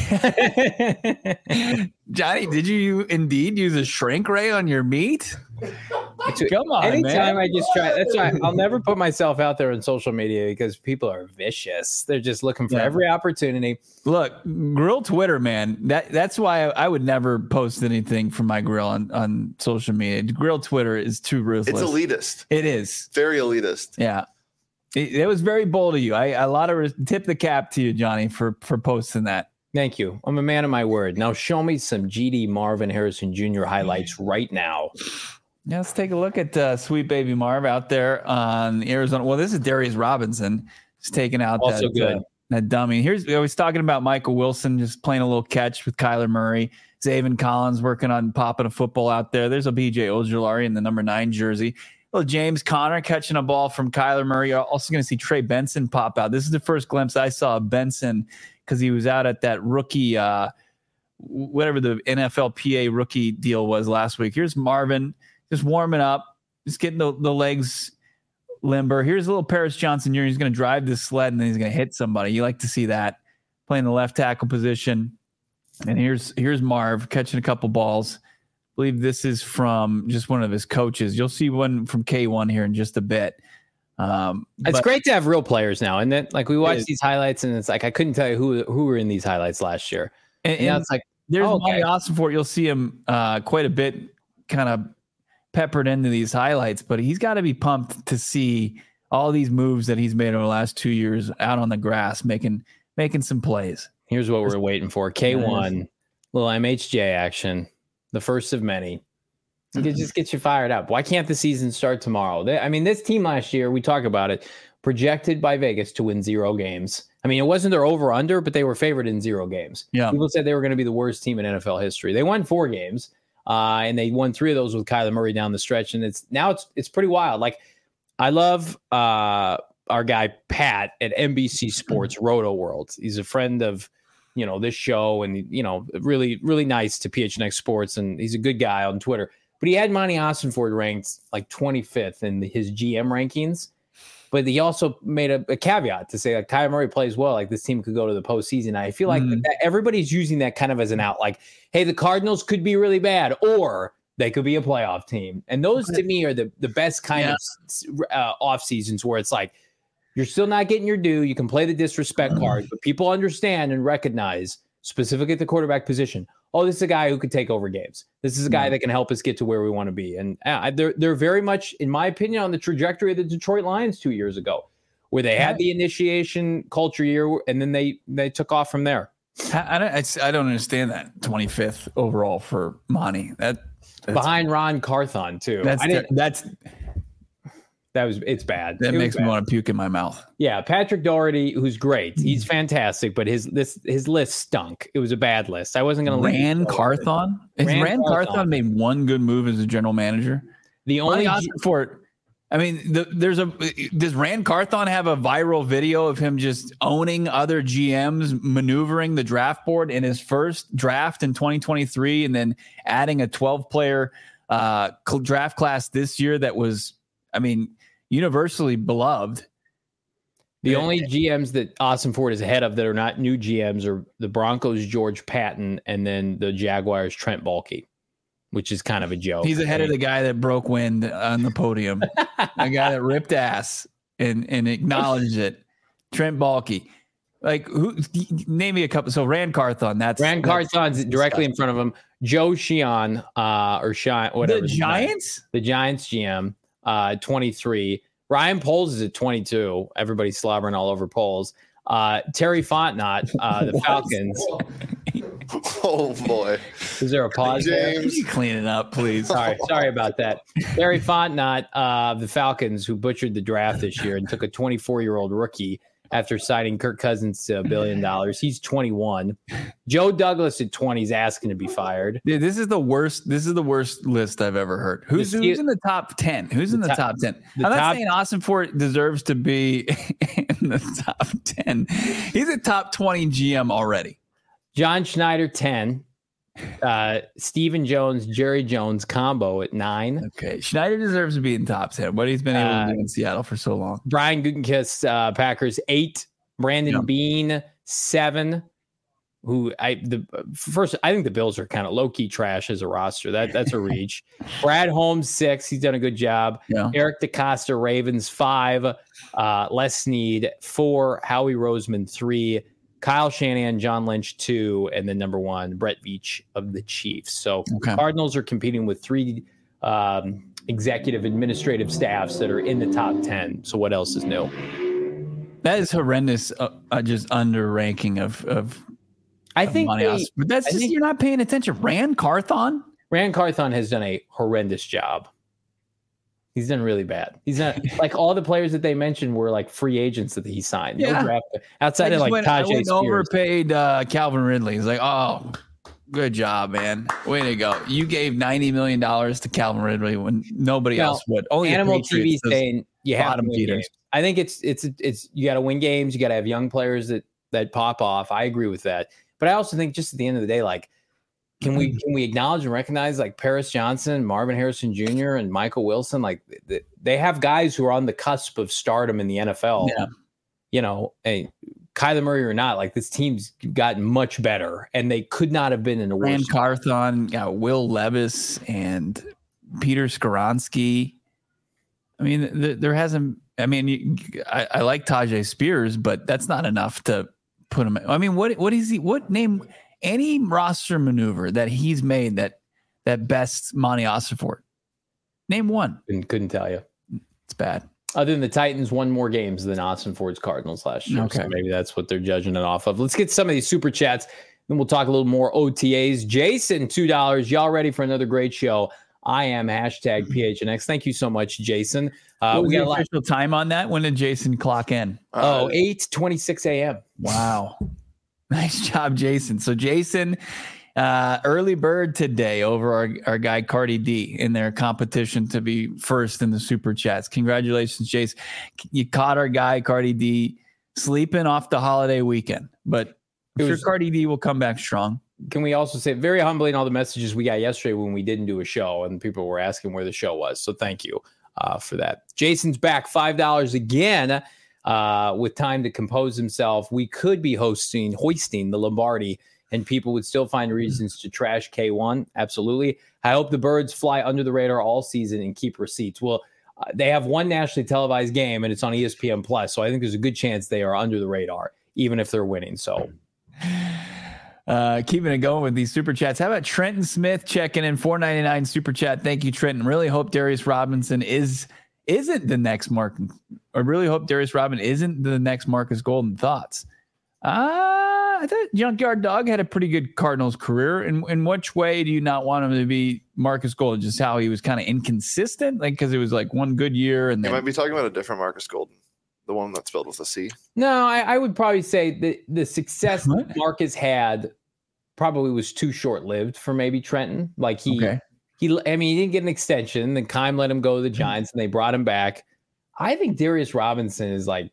Johnny, did you indeed use a shrink ray on your meat? Come on, anytime, man. I just try. That's why I'll never put myself out there on social media because people are vicious. They're just looking for every opportunity. Look, grill Twitter, man. That's why I would never post anything from my grill on social media. Grill Twitter is too ruthless. It's elitist. It is very elitist. Yeah, it was very bold of you. I tip the cap to you, Johnny, for posting that. Thank you. I'm a man of my word. Now show me some GD Marvin Harrison Jr. highlights right now. Yeah, let's take a look at Sweet Baby Marv out there on Arizona. Well, this is Darius Robinson just taking out that dummy. I was talking about Michael Wilson just playing a little catch with Kyler Murray. Zaven Collins working on popping a football out there. There's a BJ Ojulari in the number 9 jersey. Little James Conner catching a ball from Kyler Murray. You're also going to see Trey Benson pop out. This is the first glimpse I saw of Benson because he was out at that rookie, whatever the NFLPA rookie deal was last week. Here's Marvin. Just warming up, just getting the legs limber. Here's a little Paris Johnson Jr. He's going to drive this sled and then he's going to hit somebody. You like to see that. Playing the left tackle position. And here's Marv catching a couple balls. I believe this is from just one of his coaches. You'll see one from K1 here in just a bit. It's great to have real players now. And then like we watch these highlights and it's like, I couldn't tell you who were in these highlights last year. And now it's like, there's Monty Ossenfort. You'll see him quite a bit kind of peppered into these highlights, but he's got to be pumped to see all these moves that he's made over the last 2 years out on the grass, making some plays. Here's what we're waiting for. K1, little MHJ action, the first of many. It just gets you fired up. Why can't the season start tomorrow? This team last year, we talk about it, projected by Vegas to win 0 games. I mean, it wasn't their over-under, but they were favored in 0 games. Yeah. People said they were going to be the worst team in NFL history. They won 4 games, and they won 3 of those with Kyler Murray down the stretch. And it's pretty wild. Like, I love our guy Pat at NBC Sports Roto World. He's a friend of this show, and really really nice to PHNX Sports, and he's a good guy on Twitter. But he had Monty Ossenfort ranked like 25th in his GM rankings. But he also made a caveat to say, like, Kyler Murray plays well, like this team could go to the postseason. I feel like that everybody's using that kind of as an out, like, hey, the Cardinals could be really bad, or they could be a playoff team. And those to me are the best kind of off seasons where it's like, you're still not getting your due. You can play the disrespect card, but people understand and recognize, specifically at the quarterback position, oh, this is a guy who could take over games. This is a guy that can help us get to where we want to be. And they're very much, in my opinion, on the trajectory of the Detroit Lions 2 years ago, where they had the initiation culture year, and then they took off from there. I don't understand that 25th overall for Monty. That's behind Ron Carthon too. It's bad. That makes me want to puke in my mouth. Yeah, Patrick Doherty, who's great. He's fantastic, but his list stunk. It was a bad list. I wasn't going to Rand Carthon? Has Rand Carthon made one good move as a general manager? The only does Rand Carthon have a viral video of him just owning other GMs, maneuvering the draft board in his first draft in 2023, and then adding a 12-player draft class this year that was, universally beloved? The only GMs that Ossenfort is ahead of that are not new GMs are the Broncos' George Patton, and then the Jaguars' Trent Baalke, which is kind of a joke. He's ahead of the guy that broke wind on the podium, the guy that ripped ass and acknowledged it. Trent Baalke. Like, who? Name me a couple. So Rand Carthon. Rand Carthon's directly in front of him. Joe Sheehan, or Shine, whatever. The Giants GM, 23. Ryan Poles is at 22. Everybody's slobbering all over Poles. Terry Fontenot, the Falcons. Oh boy! Is there a pause there? Can you clean it up, please? Sorry about that. Terry Fontenot, the Falcons, who butchered the draft this year and took a 24-year-old rookie after signing Kirk Cousins to $1 billion. He's 21. Joe Douglas at 20 is asking to be fired. Dude, this is the worst list I've ever heard. Who's in the top 10? Who's in the top 10? I'm not saying Ossenfort deserves to be in the top 10. He's a top 20 GM already. John Schneider, 10. Stephen Jones, Jerry Jones combo at 9. Okay. Schneider deserves to be in top 10. What he's been able to do in Seattle for so long. Brian Gutekunst, Packers, 8. Brandon Beane, 7. I think the Bills are kind of low-key trash as a roster. That's a reach. Brad Holmes, 6. He's done a good job. Yeah. Eric DeCosta, Ravens, 5. Les Snead, 4. Howie Roseman, 3. Kyle Shanahan, John Lynch, 2, and then number 1, Brett Veach of the Chiefs. So Cardinals are competing with 3 executive administrative staffs that are in the top 10. So what else is new? That is horrendous. Just under ranking of I think but that's just you're not paying attention. Rand Carthon has done a horrendous job. He's done really bad. He's not like all the players that they mentioned were like free agents that he signed. Yeah. No draft, outside of like Tajay Spears. Overpaid Calvin Ridley. He's like, oh, good job, man. Way to go. You gave $90 million to Calvin Ridley when nobody else would. Only Animal TV saying you have to win feeders. games. I think it's you got to win games. You got to have young players that pop off. I agree with that. But I also think just at the end of the day, like, Can we acknowledge and recognize like Paris Johnson, Marvin Harrison Jr., and Michael Wilson? Like they have guys who are on the cusp of stardom in the NFL. Yeah. Hey, Kyler Murray or not, like this team's gotten much better, and they could not have been in a worse. Rand Carthon, got Will Levis and Peter Skoronski. I mean, there hasn't I mean, I like Tajay Spears, but that's not enough to put him. I mean, what is he? What name? Any roster maneuver that he's made that best Monty Ossenfort? Name one. Couldn't tell you. It's bad. Other than the Titans won more games than Ossenfort's Cardinals last year. Okay. So maybe that's what they're judging it off of. Let's get some of these super chats. Then we'll talk a little more OTAs. Jason, $2. Y'all ready for another great show? I am #PHNX. Thank you so much, Jason. What was the official time on that? When did Jason clock in? 8:26 a.m. Wow. Nice job, Jason. So Jason, early bird today over our guy Cardi D in their competition to be first in the super chats. Congratulations, Jason. You caught our guy Cardi D sleeping off the holiday weekend, but I'm sure Cardi D will come back strong. Can we also say very humbling all the messages we got yesterday when we didn't do a show and people were asking where the show was. So thank you for that. Jason's back, $5 again with time to compose himself. We could be hoisting the Lombardi and people would still find reasons to trash K1. Absolutely. I hope the Birds fly under the radar all season and keep receipts. Well, they have one nationally televised game and it's on ESPN Plus. So I think there's a good chance they are under the radar, even if they're winning. So keeping it going with these super chats. How about Trenton Smith checking in $4.99 super chat? Thank you, Trenton. Really hope Darius Robinson isn't the next Mark. I really hope Darius Robinson isn't the next Marcus Golden. Thoughts? I thought Junkyard Dog had a pretty good Cardinals career. In which way do you not want him to be Marcus Golden? Just how he was kind of inconsistent, like because it was like one good year and then you might be talking about a different Marcus Golden. The one that's spelled with a C? No, I would probably say the success that Marcus had probably was too short-lived for maybe Trenton. Like he didn't get an extension. Then Keim let him go to the Giants and they brought him back. I think Darius Robinson is like,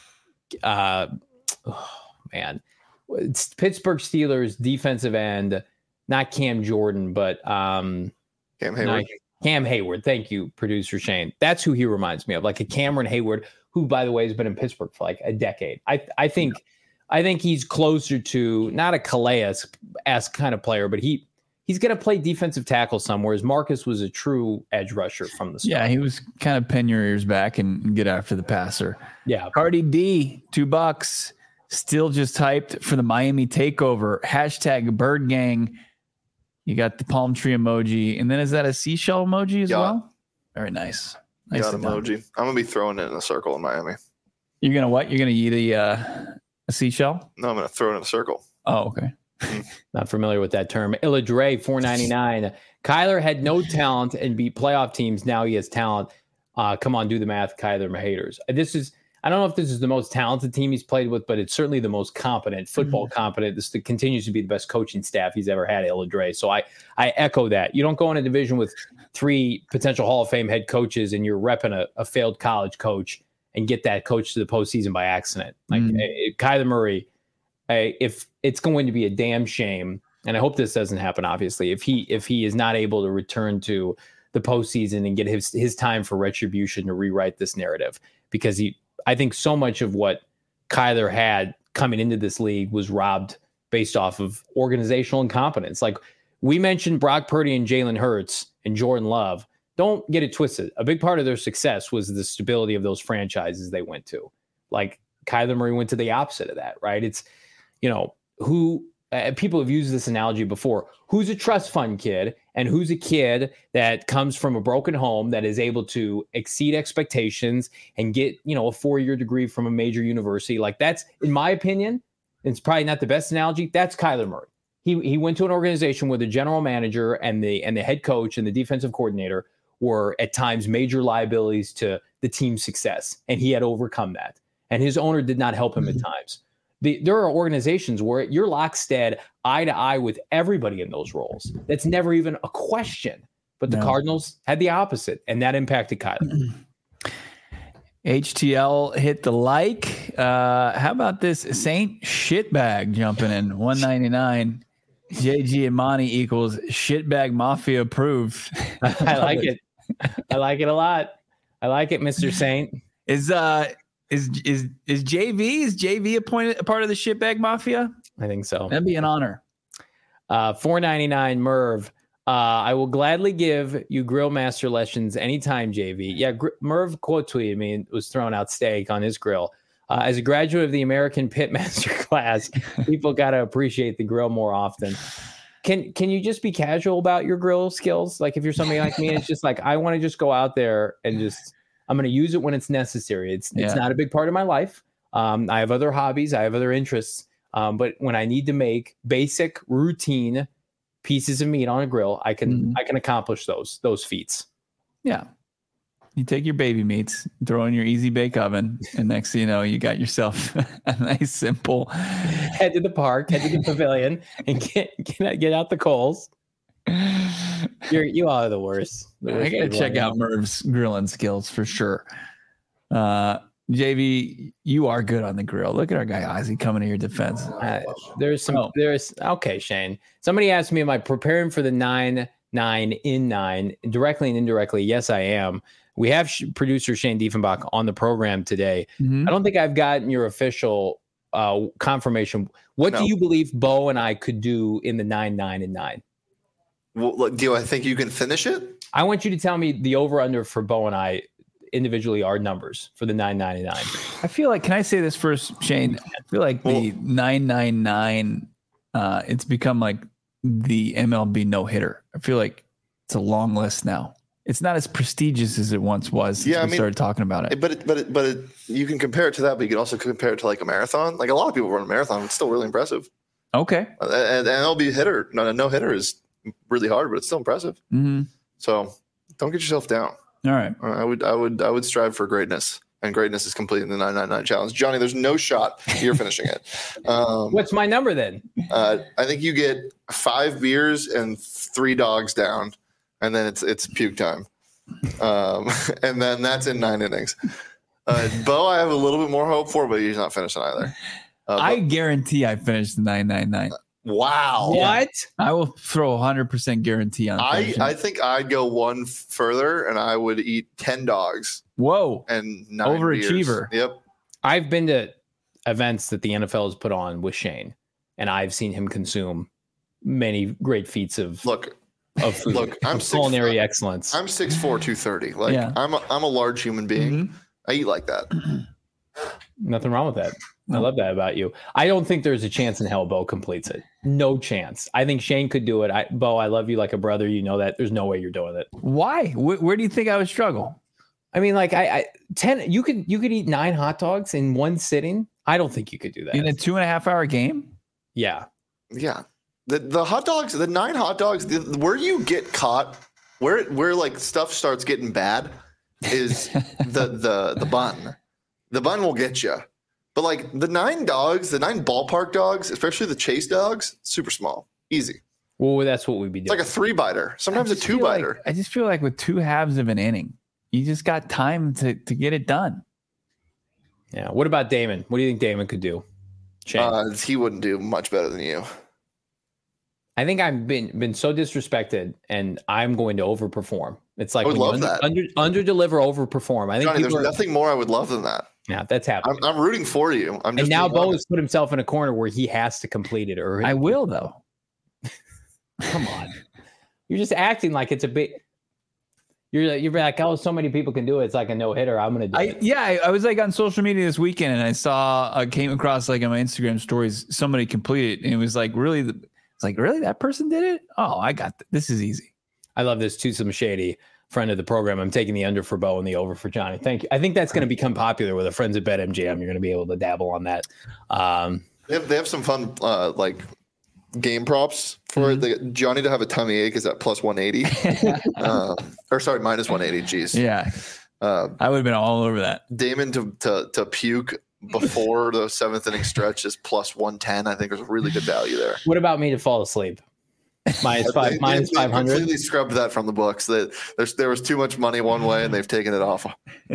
it's Pittsburgh Steelers defensive end, not Cam Jordan, but Cam Hayward. Cam Hayward. Thank you, producer Shane. That's who he reminds me of, like a Cameron Hayward, who, by the way, has been in Pittsburgh for like a decade. I think he's closer to not a Calais-esque kind of player, but he's going to play defensive tackle somewhere. As Marcus was a true edge rusher from the start. Yeah, he was kind of pin your ears back and get after the passer. Yeah. Cardi D, $2. Still just hyped for the Miami takeover. #Bird Gang. You got the palm tree emoji. And then is that a seashell emoji as well? Very nice. Nice emoji. I'm going to be throwing it in a circle in Miami. You're going to what? You're going to eat a seashell? No, I'm going to throw it in a circle. Oh, okay. Not familiar with that term. Illa Dre, $4.99. Kyler had no talent and beat playoff teams. Now he has talent. Come on, do the math, Kyler haters. I don't know if this is the most talented team he's played with, but it's certainly the most competent, football competent. This continues to be the best coaching staff he's ever had, Illa Dre. So I echo that. You don't go in a division with 3 potential Hall of Fame head coaches and you're repping a failed college coach and get that coach to the postseason by accident. Like Kyler Murray, if it's going to be a damn shame, and I hope this doesn't happen, obviously, if he is not able to return to the postseason and get his time for retribution to rewrite this narrative, because I think so much of what Kyler had coming into this league was robbed based off of organizational incompetence. Like we mentioned Brock Purdy and Jalen Hurts and Jordan Love. Don't get it twisted. A big part of their success was the stability of those franchises they went to. Like Kyler Murray went to the opposite of that, right? It's, who people have used this analogy before. Who's a trust fund kid and who's a kid that comes from a broken home that is able to exceed expectations and get, a 4-year degree from a major university? Like that's, in my opinion, it's probably not the best analogy. That's Kyler Murray. He went to an organization where the general manager and the head coach and the defensive coordinator were at times major liabilities to the team's success. And he had overcome that. And his owner did not help him at times. There are organizations where you're lockstep eye to eye with everybody in those roles. That's never even a question. But the Cardinals had the opposite, and that impacted Kyler. HTL hit the like. How about this Saint Shitbag jumping in? $1.99. JG and Monty equals Shitbag Mafia approved. I like it. I like it a lot. I like it, Mr. Saint. Is JV a part of the Shitbag Mafia? I think so. That'd be an honor. $4.99 Merv. I will gladly give you grill master lessons anytime, JV. Yeah, Merv quote tweeted me and was throwing out steak on his grill. As a graduate of the American Pitmaster class, people got to appreciate the grill more often. Can you just be casual about your grill skills? Like if you're somebody like me, it's just like I want to just go out there and just I'm going to use it when it's necessary. It's not a big part of my life. I have other hobbies, I have other interests, but when I need to make basic routine pieces of meat on a grill, I can accomplish those feats. Yeah. You take your baby meats, throw in your easy bake oven, and next thing you know, you got yourself a nice simple head to the park, head to the pavilion, and get out the coals. You all are the worst. I gotta check out Merv's grilling skills for sure. JV, you are good on the grill. Look at our guy Ozzy coming to your defense. Okay, Shane. Somebody asked me, am I preparing for the 9-9 in 9 directly and indirectly? Yes, I am. We have producer Shane Diefenbach on the program today. I don't think I've gotten your official confirmation. What do you believe Bo and I could do in the 9-9 and 9? Well, do I think you can finish it? I want you to tell me the over-under for Bo and I individually our numbers for the 9-9 and 9. I feel like, can I say this first, Shane? I feel like the 9-9-9, it's become like the MLB no-hitter. I feel like it's a long list now. It's not as prestigious as it once was since we started talking about it. But you can compare it to that, but you can also compare it to like a marathon. Like a lot of people run a marathon. It's still really impressive. Okay. And MLB hitter, no hitter is really hard, but it's still impressive. So don't get yourself down. All right. I would strive for greatness, and greatness is completing the 9-9-9 challenge. Johnny, there's no shot you're finishing it. What's my number then? I think you get 5 beers and 3 dogs down, and then it's puke time. And then that's in 9 innings. Bo, I have a little bit more hope for, but he's not finishing either. I guarantee I finished the 9-9-9. Wow. What? I will throw 100% guarantee on it. I think I'd go one further, and I would eat 10 dogs. Whoa. And 9 overachiever. Beers. Yep. I've been to events that the NFL has put on with Shane, and I've seen him consume many great feats of food, I'm culinary excellence. I'm 6'4", 230. Like I'm a large human being. I eat like that. Nothing wrong with that. I love that about you. I don't think there's a chance in hell Bo completes it. No chance. I think Shane could do it. Bo, I love you like a brother. You know that. There's no way you're doing it. Why? Where do you think I would struggle? I mean, like 10. You could eat 9 hot dogs in one sitting. I don't think you could do that in a 2.5 hour game. Yeah. The hot dogs, the 9 hot dogs. Where you get caught, where like stuff starts getting bad, is the bun. The bun will get you. But like the 9 dogs, the 9 ballpark dogs, especially the chase dogs, super small, easy. Well, that's what we'd be doing. It's like a 3-biter, sometimes a 2-biter. I just feel like with 2 halves of an inning, you just got time to get it done. Yeah. What about Damon? What do you think Damon could do? Shane? He wouldn't do much better than you. I think I've been so disrespected, and I'm going to overperform. It's like I would love that. Under deliver, overperform. I think Johnny, there's nothing more I would love than that. Yeah, that's happening. I'm rooting for you. And now Bo has put himself in a corner where he has to complete it. Or I will, though. Come on, you're just acting like it's a big. You're like, oh, so many people can do it. It's like a no hitter. I'm gonna do it. Yeah, I was like on social media this weekend, and I came across like on my Instagram stories somebody completed, and it was like really, that person did it. Oh, I got this is easy. I love this too. Some shady friend of the program. I'm taking the under for Bo and the over for Johnny. Thank you. I think that's going to become popular with the friends at BetMGM. You're going to be able to dabble on that. They have some fun like game props for it. Johnny to have a tummy ache is at plus 180. Minus 180. Jeez. Yeah. I would have been all over that. Damon to puke before the 7th inning stretch is plus 110. I think there's a really good value there. What about me to fall asleep? Minus 500. They completely scrubbed that from the books. There was too much money one way, and they've taken it off.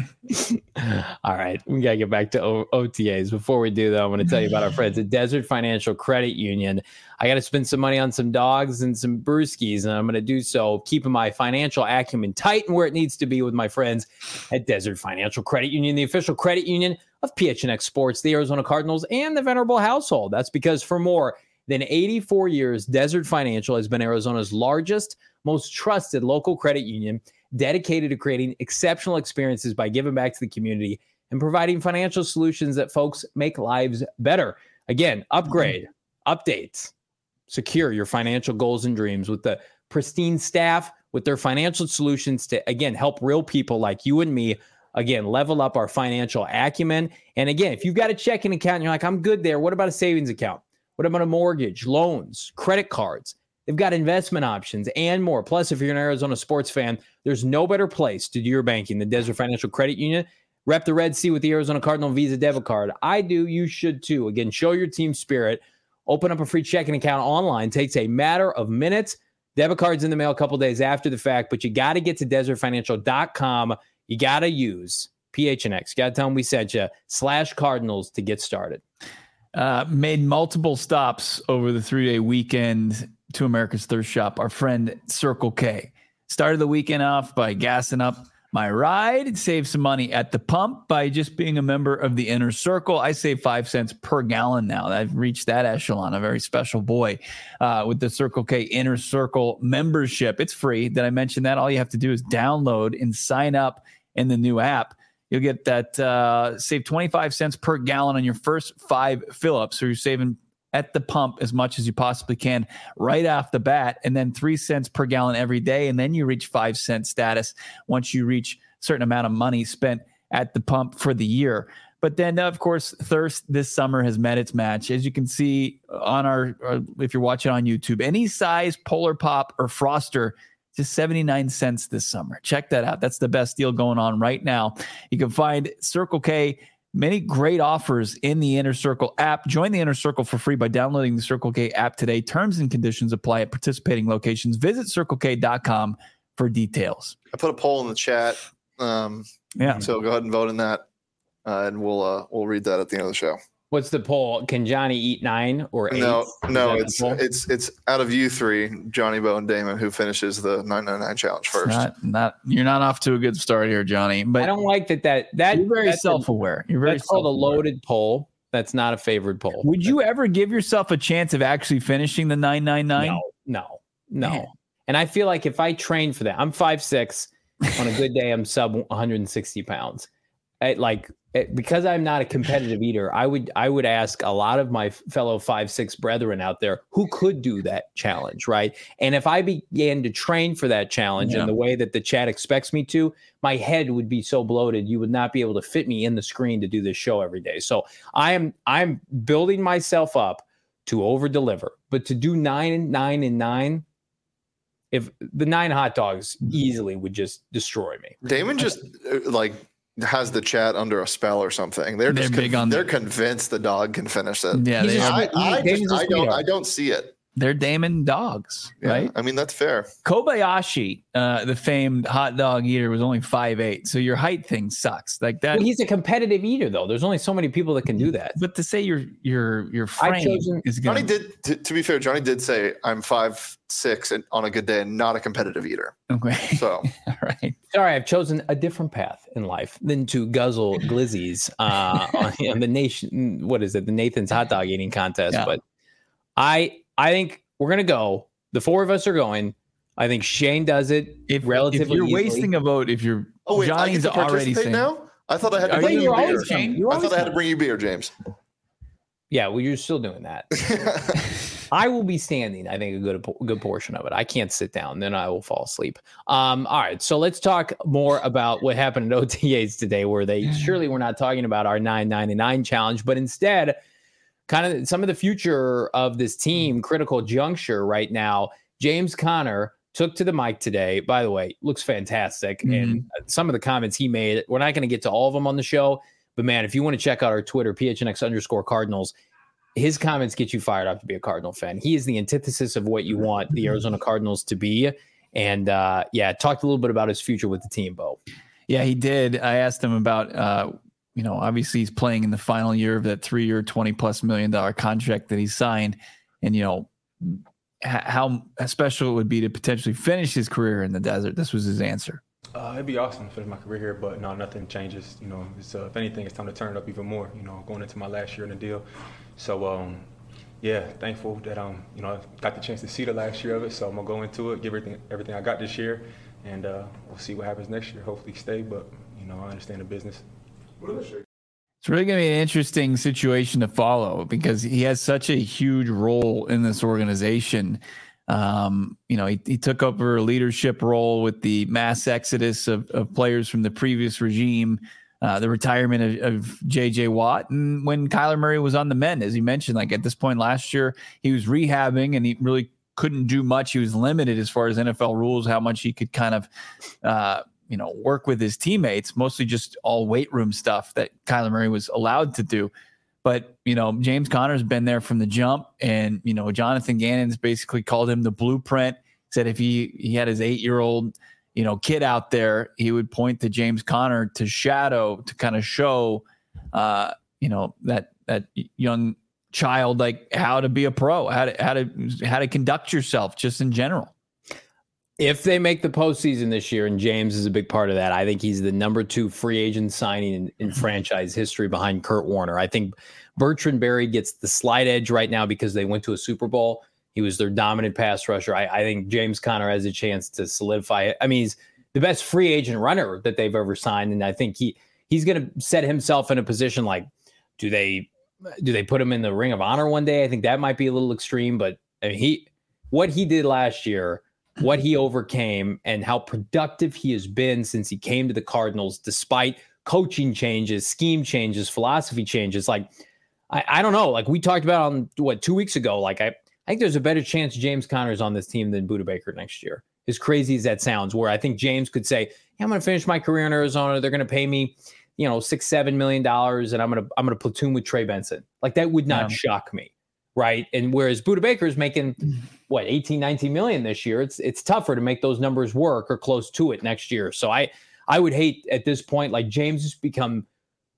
All right, we gotta get back to OTAs. Before we do, though, I'm going to tell you about our friends at Desert Financial Credit Union. I got to spend some money on some dogs and some brewskis, and I'm going to do so keeping my financial acumen tight and where it needs to be with my friends at Desert Financial Credit Union, the official credit union of PHNX Sports, the Arizona Cardinals, and the Venerable Household. That's because for more than 84 years, Desert Financial has been Arizona's largest, most trusted local credit union, dedicated to creating exceptional experiences by giving back to the community and providing financial solutions that folks make lives better. Again, upgrade, updates, secure your financial goals and dreams with the pristine staff, with their financial solutions to, again, help real people like you and me, again, level up our financial acumen. And again, if you've got a checking account and you're like, I'm good there, what about a savings account? What about a mortgage, loans, credit cards? They've got investment options and more. Plus, if you're an Arizona sports fan, there's no better place to do your banking than Desert Financial Credit Union. Rep the Red Sea with the Arizona Cardinal Visa debit card. I do. You should too. Again, show your team spirit. Open up a free checking account online. Takes a matter of minutes. Debit card's in the mail a couple days after the fact, but you got to get to desertfinancial.com. You got to use PHNX. You got to tell them we sent you /Cardinals to get started. Made multiple stops over the 3-day weekend to America's Thirst Shop. Our friend Circle K started the weekend off by gassing up my ride, saved some money at the pump by just being a member of the Inner Circle. I save 5 cents per gallon now. I've reached that echelon, a very special boy with the Circle K Inner Circle membership. It's free. Did I mention that? All you have to do is download and sign up in the new app. You'll get that save 25 cents per gallon on your first 5 fill-ups. So you're saving at the pump as much as you possibly can right off the bat, and then 3 cents per gallon every day. And then you reach 5 cent status once you reach a certain amount of money spent at the pump for the year. But then, of course, thirst this summer has met its match. As you can see on if you're watching on YouTube, any size Polar Pop or Froster, just 79 cents this summer. Check that out. That's the best deal going on right now. You can find Circle K, many great offers in the Inner Circle app. Join the Inner Circle for free by downloading the Circle K app today. Terms and conditions apply at participating locations. Visit CircleK.com for details. I put a poll in the chat. So go ahead and vote in that, and we'll read that at the end of the show. What's the poll? Can Johnny eat 9 or 8? No, it's out of you three, Johnny, Bo, and Damon, who finishes the 999 challenge first. You're not off to a good start here, Johnny. But I don't like that. You're very self-aware. That's called a loaded poll. That's not a favored poll. Would you ever give yourself a chance of actually finishing the 999? No. Man. And I feel like if I train for that, I'm 5'6". On a good day, I'm sub 160 pounds. Because I'm not a competitive eater, I would ask a lot of my fellow 5'6" brethren out there who could do that challenge, right? And if I began to train for that challenge in the way that the chat expects me to, my head would be so bloated you would not be able to fit me in the screen to do this show every day. So I'm building myself up to over deliver, but to do 9 and 9 and 9. If the 9 hot dogs easily would just destroy me. Damon just has the chat under a spell or something. They're big on. They're convinced the dog can finish it. Yeah, I don't see it. They're Damon dogs, right? I mean, that's fair. Kobayashi, the famed hot dog eater, was only 5'8". So your height thing sucks. Like that. Well, he's a competitive eater, though. There's only so many people that can do that. But to say your frame is Johnny did. To be fair, Johnny did say I'm 5'6" and on a good day and not a competitive eater. Okay. So all right. Sorry, I've chosen a different path in life than to guzzle glizzies on the nation. What is it? The Nathan's hot dog eating contest. Yeah. But I think we're going to go. The 4 of us are going. I think Shane does it relatively If you're easily. wasting a vote, if you're Johnny's I get to already saying. Now? I thought I had to bring you beer. I thought I had to bring you beer, James. Yeah, well, you're still doing that. I will be standing, I think, a good portion of it. I can't sit down. Then I will fall asleep. All right, so let's talk more about what happened at OTAs today, where they surely were not talking about our 999 challenge, but instead kind of some of the future of this team, critical juncture right now. James Conner took to the mic today. By the way, looks fantastic. Mm-hmm. And some of the comments he made, we're not going to get to all of them on the show, but man, if you want to check out our Twitter, PHNX_Cardinals, his comments get you fired up to be a Cardinal fan. He is the antithesis of what you want the Arizona Cardinals to be. And talked a little bit about his future with the team, Bo. Yeah, he did. I asked him about, obviously he's playing in the final year of that 3-year, $20+ million contract that he signed. And, how special it would be to potentially finish his career in the desert. This was his answer. It'd be awesome to finish my career here, but no, nothing changes. If anything, it's time to turn it up even more, going into my last year in the deal. So, Yeah, thankful that got the chance to see the last year of it. So I'm gonna go into it, give everything I got this year, and we'll see what happens next year. Hopefully stay, but I understand the business. It's really going to be an interesting situation to follow because he has such a huge role in this organization. He took over a leadership role with the mass exodus of players from the previous regime, the retirement of J.J. Watt. And when Kyler Murray was on the mend, as you mentioned, like at this point last year, he was rehabbing and he really couldn't do much. He was limited as far as NFL rules, how much he could kind of, work with his teammates, mostly just all weight room stuff that Kyler Murray was allowed to do. But, James Conner's been there from the jump. And, Jonathan Gannon's basically called him the blueprint, said if he had his 8-year-old, kid out there, he would point to James Conner to shadow, to kind of show, that young child, like how to be a pro, how to conduct yourself just in general. If they make the postseason this year, and James is a big part of that, I think he's the number 2 free agent signing in franchise history behind Kurt Warner. I think Bertrand Berry gets the slight edge right now because they went to a Super Bowl. He was their dominant pass rusher. I think James Conner has a chance to solidify it. I mean, he's the best free agent runner that they've ever signed, and I think he's going to set himself in a position like, do they put him in the Ring of Honor one day? I think that might be a little extreme, but I mean, what he did last year, what he overcame, and how productive he has been since he came to the Cardinals, despite coaching changes, scheme changes, philosophy changes. Like, I don't know. Like we talked about on 2 weeks ago, like I think there's a better chance James Conner is on this team than Budda Baker next year. As crazy as that sounds, where I think James could say, "Yeah, I'm going to finish my career in Arizona. They're going to pay me, $6-7 million, and I'm going to platoon with Trey Benson." Like that would not shock me. Right. And whereas Budda Baker is making 18-19 million this year, it's tougher to make those numbers work or close to it next year. So I would hate at this point, like James has become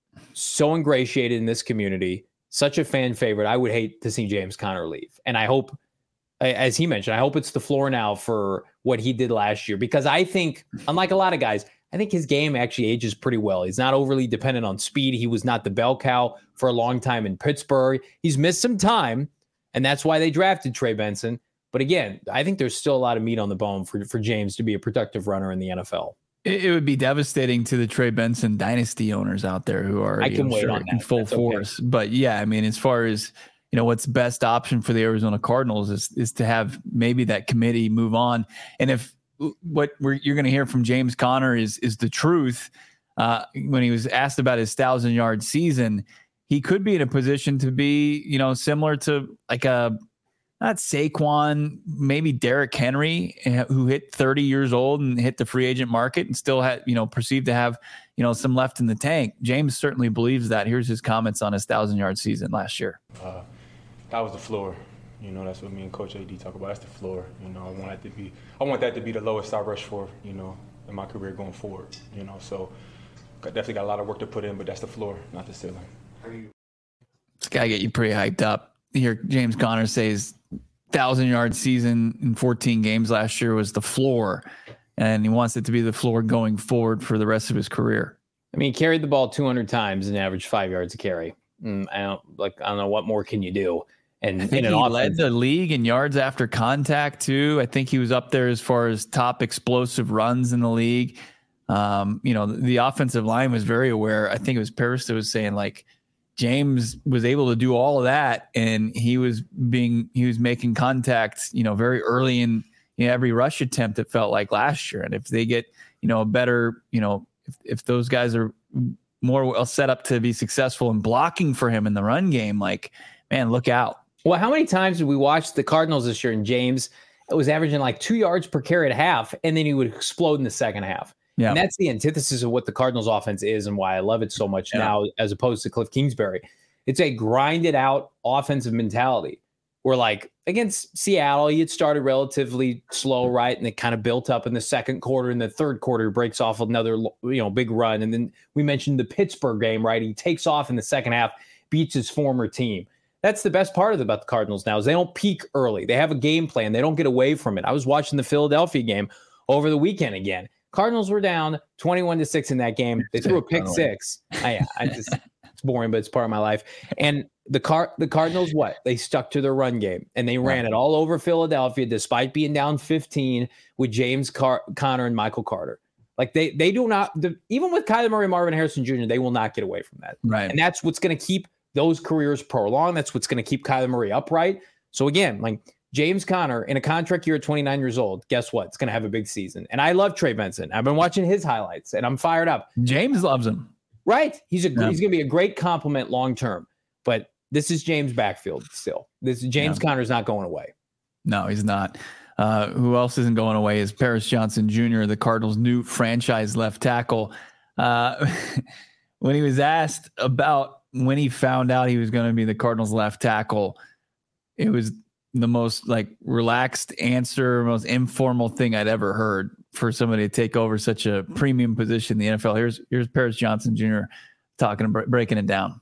so ingratiated in this community, such a fan favorite. I would hate to see James Conner leave. And I hope, as he mentioned, I hope it's the floor now for what he did last year, because I think, unlike a lot of guys, I think his game actually ages pretty well. He's not overly dependent on speed. He was not the bell cow for a long time in Pittsburgh. He's missed some time, and that's why they drafted Trey Benson. But again, I think there's still a lot of meat on the bone for James to be a productive runner in the NFL. It would be devastating to the Trey Benson dynasty owners out there who are in full force. Okay. But yeah, I mean, as far as what's the best option for the Arizona Cardinals is to have maybe that committee move on. And if what you're going to hear from James Conner is the truth, when he was asked about his 1,000-yard season, he could be in a position to be, similar to like not Saquon, maybe Derrick Henry, who hit 30 years old and hit the free agent market and still had, perceived to have, some left in the tank. James certainly believes that. Here's his comments on his 1,000-yard season last year. That was the floor. That's what me and Coach AD talk about. That's the floor. I want that to be the lowest I rush for, in my career going forward. So definitely got a lot of work to put in, but that's the floor, not the ceiling. This guy get you pretty hyped up. Here, James Conner says 1,000-yard season in 14 games last year was the floor, and he wants it to be the floor going forward for the rest of his career. I mean, he carried the ball 200 times and averaged 5 yards a carry. I don't know what more can you do. And I think he led the league in yards after contact too. I think he was up there as far as top explosive runs in the league. The offensive line was very aware. I think it was Paris that was saying like James was able to do all of that, and he was making contact, very early in every rush attempt. It felt like last year, and if they get a better, if those guys are more well set up to be successful in blocking for him in the run game, like, man, look out. Well, how many times did we watch the Cardinals this year, and James was averaging like 2 yards per carry at half, and then he would explode in the second half. Yeah. And that's the antithesis of what the Cardinals offense is and why I love it so much now as opposed to Cliff Kingsbury. It's a grinded out offensive mentality where, like, against Seattle, he had started relatively slow, right? And it kind of built up in the second quarter. In the third quarter, breaks off another, big run. And then we mentioned the Pittsburgh game, right? He takes off in the second half, beats his former team. That's the best part about the Cardinals now is they don't peak early. They have a game plan. They don't get away from it. I was watching the Philadelphia game over the weekend again. Cardinals were down 21-6 in that game. They threw a pick six. It's boring, but it's part of my life. And the Cardinals, what? They stuck to their run game and they ran it all over Philadelphia despite being down 15 with James Conner and Michael Carter. Like they do not, even with Kyler Murray, Marvin Harrison Jr., they will not get away from that. Right. And that's what's going to keep those careers prolonged. That's what's going to keep Kyler Murray upright. So again, like James Conner in a contract year at 29 years old, guess what? It's going to have a big season. And I love Trey Benson. I've been watching his highlights and I'm fired up. James loves him. Right. He's going to be a great compliment long-term, but this is James' backfield still. James Conner's not going away. No, he's not. Who else isn't going away is Paris Johnson Jr., the Cardinals' new franchise left tackle. When he was asked about when he found out he was going to be the Cardinals' left tackle, it was the most like relaxed answer, most informal thing I'd ever heard for somebody to take over such a premium position in the NFL. Here's Paris Johnson Jr. breaking it down.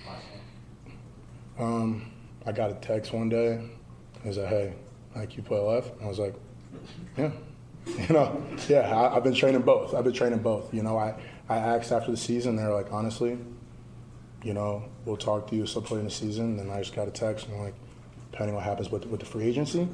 I got a text one day. He was like, "Hey, like you play left?" I was like, "Yeah." I've been training both. I asked after the season. They're like, "Honestly, we'll talk to you some point in the season." Then I just got a text and like, depending what happens with the free agency.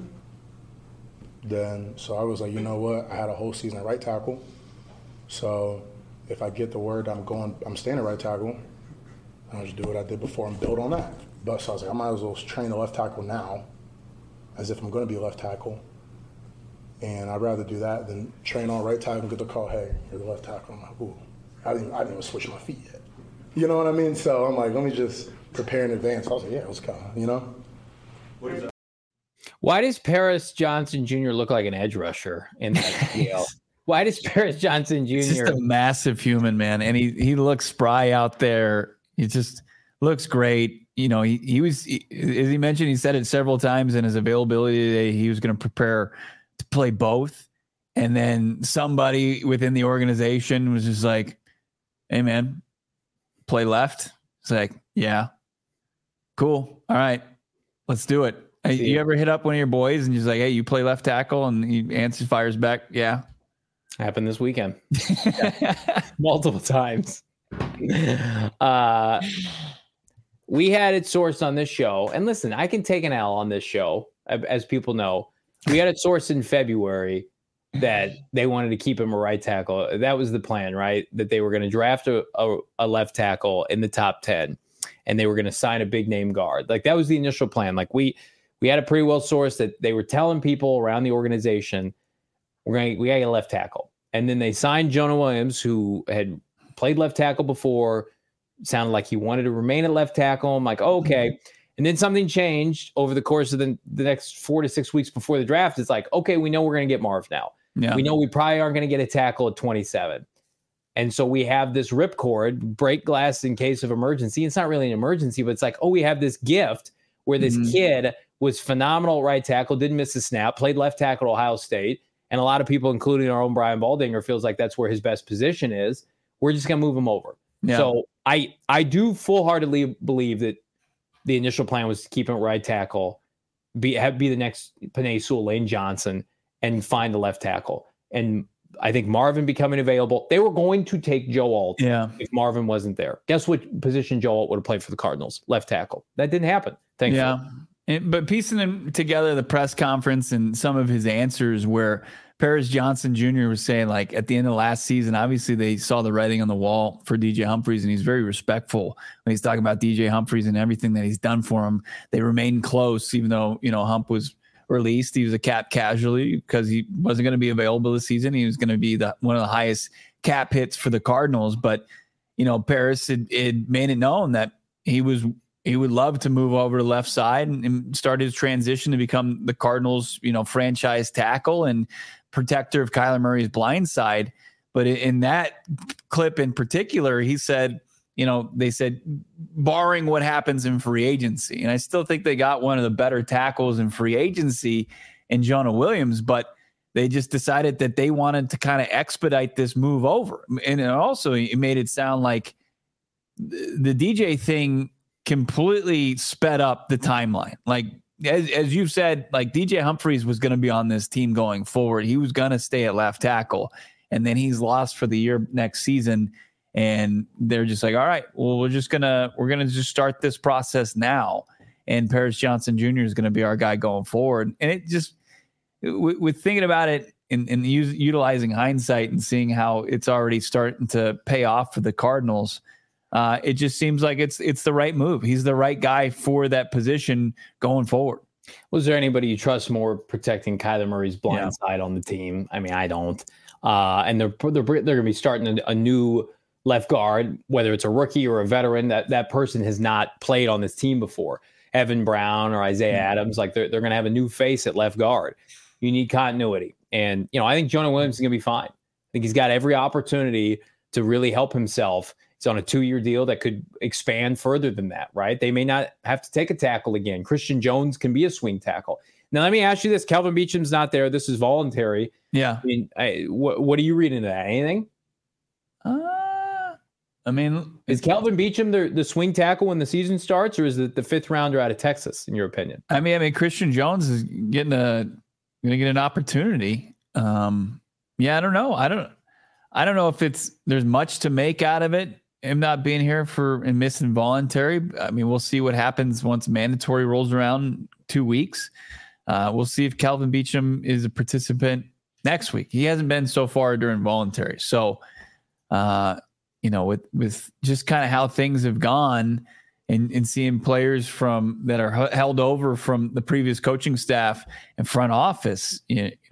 So I was like, you know what? I had a whole season at right tackle. So if I get the word I'm staying at right tackle, I'll just do what I did before and build on that. But so I was like, I might as well train the left tackle now, as if I'm going to be a left tackle. And I'd rather do that than train on right tackle and get the call, "Hey, you're the left tackle." I'm like, ooh, I didn't even switch my feet yet. You know what I mean? So I'm like, let me just prepare in advance. I was like, yeah, let's go, Why does Paris Johnson Jr. look like an edge rusher in that deal? Why does Paris Johnson Jr. He's just a massive human, man, and he looks spry out there. He just looks great. He was, as he mentioned, he said it several times in his availability today. He was going to prepare to play both, and then somebody within the organization was just like, "Hey, man, play left." It's like, yeah, cool, all right, let's do it. Hey, you ever hit up one of your boys and just like, "Hey, you play left tackle," and he fires back, "Yeah." Happened this weekend. Multiple times. We had it sourced on this show. And listen, I can take an L on this show, as people know. We had it sourced in February that they wanted to keep him a right tackle. That was the plan, right? That they were going to draft a left tackle in the top 10, and they were going to sign a big name guard. Like that was the initial plan. Like we had a pretty well sourced that they were telling people around the organization, we got to get a left tackle. And then they signed Jonah Williams, who had played left tackle before, sounded like he wanted to remain at left tackle. I'm like, okay. And then something changed over the course of the next 4 to 6 weeks before the draft. It's like, okay, we know we're going to get Marv now. Yeah. We know we probably aren't going to get a tackle at 27. And so we have this ripcord, break glass in case of emergency. It's not really an emergency, but it's like, oh, we have this gift where this kid was phenomenal right tackle, didn't miss a snap, played left tackle at Ohio State. And a lot of people, including our own Brian Baldinger, feels like that's where his best position is. We're just going to move him over. Yeah. So I do full-heartedly believe that the initial plan was to keep him at right tackle, be the next Penei Sewell, Lane Johnson, and find the left tackle. And I think Marvin becoming available, they were going to take Joe Alt if Marvin wasn't there. Guess what position Joe Alt would have played for the Cardinals? Left tackle. That didn't happen. Thankfully. Yeah. But piecing them together, the press conference and some of his answers where Paris Johnson Jr. was saying, like, at the end of last season, obviously they saw the writing on the wall for DJ Humphries, and he's very respectful when he's talking about DJ Humphries and everything that he's done for him. They remained close, even though, Hump was released. He was a cap casualty because he wasn't going to be available this season. He was going to be one of the highest cap hits for the Cardinals. But, Paris had made it known that he would love to move over to the left side and start his transition to become the Cardinals, franchise tackle and protector of Kyler Murray's blind side. But in that clip in particular, he said, they said, barring what happens in free agency. And I still think they got one of the better tackles in free agency in Jonah Williams, but they just decided that they wanted to kind of expedite this move over. And also it made it sound like the DJ thing completely sped up the timeline. Like, as you've said, like DJ Humphries was going to be on this team going forward. He was going to stay at left tackle, and then he's lost for the year next season. And they're just like, all right, well, we're going to just start this process now. And Paris Johnson Jr. is going to be our guy going forward. And it just, with thinking about it and utilizing hindsight and seeing how it's already starting to pay off for the Cardinals, it just seems like it's the right move. He's the right guy for that position going forward. Was there anybody you trust more protecting Kyler Murray's blind side on the team? I mean, I don't. And they're going to be starting a new left guard, whether it's a rookie or a veteran. That person has not played on this team before. Evan Brown or Isaiah Adams, like they're going to have a new face at left guard. You need continuity. And, I think Jonah Williams is going to be fine. I think he's got every opportunity to really help himself. He's on a 2-year deal that could expand further than that, right? They may not have to take a tackle again. Christian Jones can be a swing tackle. Now, let me ask you this. Kelvin Beacham's not there. This is voluntary. Yeah. I mean, what do you read into that? Anything? Is Kelvin Beacham the swing tackle when the season starts, or is it the 5th rounder out of Texas, in your opinion? I mean, Christian Jones is going to get an opportunity. I don't know. I don't know if there's much to make out of it. Him not being here and missing voluntary. I mean, we'll see what happens once mandatory rolls around in 2 weeks. We'll see if Kelvin Beacham is a participant next week. He hasn't been so far during voluntary. So, with just kind of how things have gone and seeing players that are held over from the previous coaching staff and front office,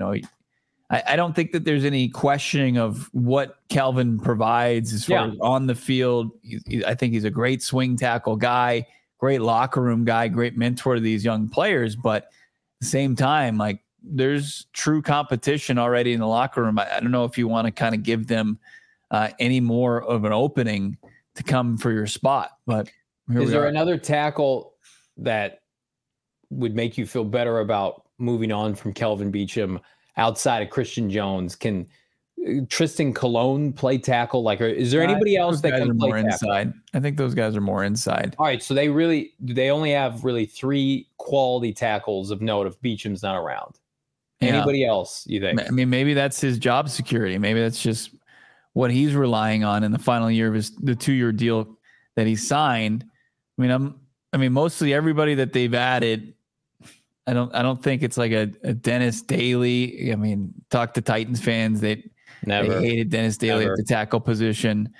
I don't think that there's any questioning of what Kelvin provides as far as on the field. I think he's a great swing tackle guy, great locker room guy, great mentor to these young players. But at the same time, like, there's true competition already in the locker room. I don't know if you want to kind of give them any more of an opening to come for your spot. But is there another tackle that would make you feel better about moving on from Kelvin Beacham outside of Christian Jones? Can Tristan Colon play tackle? Like, is there anybody else that can play more tackle? Inside? I think those guys are more inside. All right, so they only have really 3 quality tackles of note if Beacham's not around. Anybody else, you think? I mean, maybe that's his job security. Maybe that's just what he's relying on in the final year of the 2-year deal that he signed. I mean, mostly everybody that they've added, I don't think it's like a Dennis Daly. I mean, talk to Titans fans. They hated Dennis Daly at the tackle position.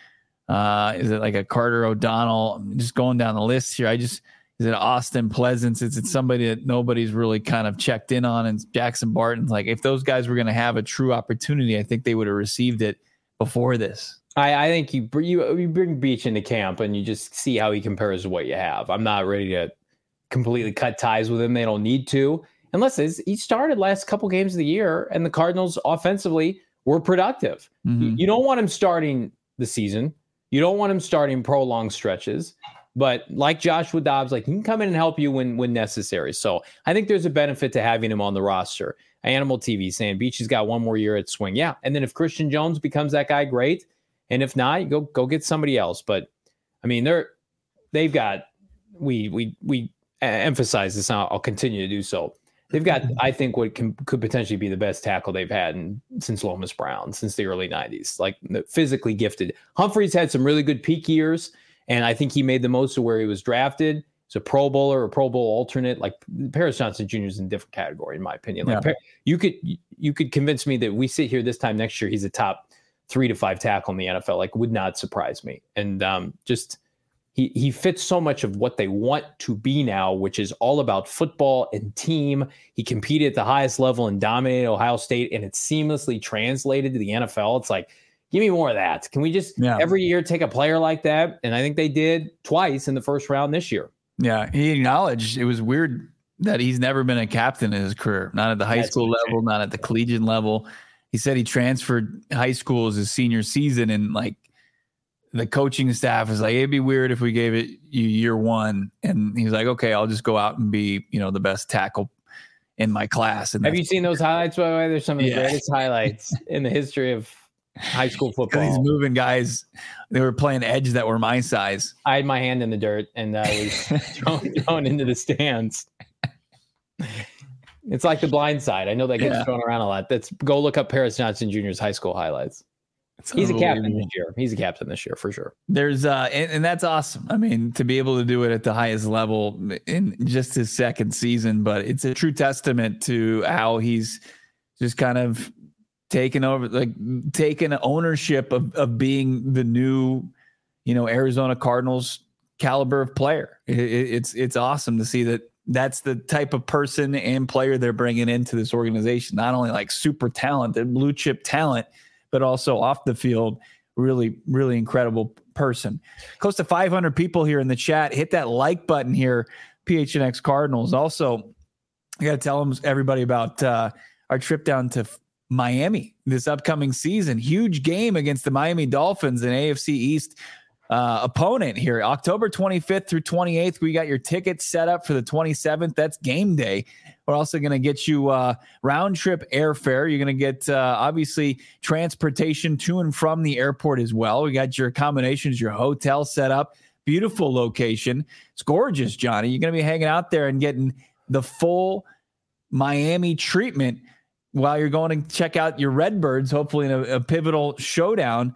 Is it like a Carter O'Donnell? I'm just going down the list here. Is it Austin Pleasance? Is it somebody that nobody's really kind of checked in on? And Jackson Barton's like, if those guys were going to have a true opportunity, I think they would have received it before this. I think you bring Beach into camp and you just see how he compares to what you have. I'm not ready to completely cut ties with him. They don't need to, unless he started last couple games of the year and the Cardinals offensively were productive. Mm-hmm. You don't want him starting the season. You don't want him starting prolonged stretches. But like Joshua Dobbs, like, he can come in and help you when necessary. So I think there's a benefit to having him on the roster. Animal TV saying Beach has got 1 more year at swing. Yeah. And then if Christian Jones becomes that guy, great. And if not, you go get somebody else. But I mean, they've got, we emphasize this, and I'll continue to do so. They've got, I think, what could potentially be the best tackle they've had since Lomas Brown, since the early 90s, like physically gifted. Humphreys had some really good peak years, and I think he made the most of where he was drafted. He's a Pro Bowler or Pro Bowl alternate. Like, Paris Johnson Jr. is in a different category, in my opinion. Like, you could convince me that we sit here this time next year, he's a top 3 to 5 tackle in the NFL. Like, would not surprise me. And he fits so much of what they want to be now, which is all about football and team. He competed at the highest level and dominated Ohio State, and it's seamlessly translated to the NFL. It's like, give me more of that. Can we just every year take a player like that? And I think they did twice in the first round this year. Yeah, he acknowledged it was weird that he's never been a captain in his career, not at the high school level, not at the collegiate level. He said he transferred high school as his senior season, and like the coaching staff is like, it'd be weird if we gave it you year 1. And he's like, okay, I'll just go out and be, the best tackle in my class. And have you seen those highlights, by the way? There's some of the greatest highlights in the history of high school football. He's moving guys. They were playing edge that were my size. I had my hand in the dirt and I was thrown into the stands. It's like The Blind Side. I know that gets thrown around a lot. Go look up Paris Johnson Jr.'s high school highlights. He's a captain this year. He's a captain this year for sure. There's and that's awesome. I mean, to be able to do it at the highest level in just his second season, but it's a true testament to how he's just kind of taken ownership of being the new, Arizona Cardinals caliber of player. It's awesome to see that that's the type of person and player they're bringing into this organization. Not only like super talented, blue chip talent, but also off the field, really, really incredible person. Close to 500 people here in the chat. Hit that like button here, PHNX Cardinals. Also, I got to tell everybody about our trip down to Miami this upcoming season. Huge game against the Miami Dolphins, an AFC East opponent here. October 25th through 28th. We got your tickets set up for the 27th. That's game day. We're also going to get you round trip airfare. You're going to get obviously transportation to and from the airport as well. We got your accommodations, your hotel set up. Beautiful location. It's gorgeous, Johnny. You're going to be hanging out there and getting the full Miami treatment while you're going to check out your Redbirds, hopefully in a pivotal showdown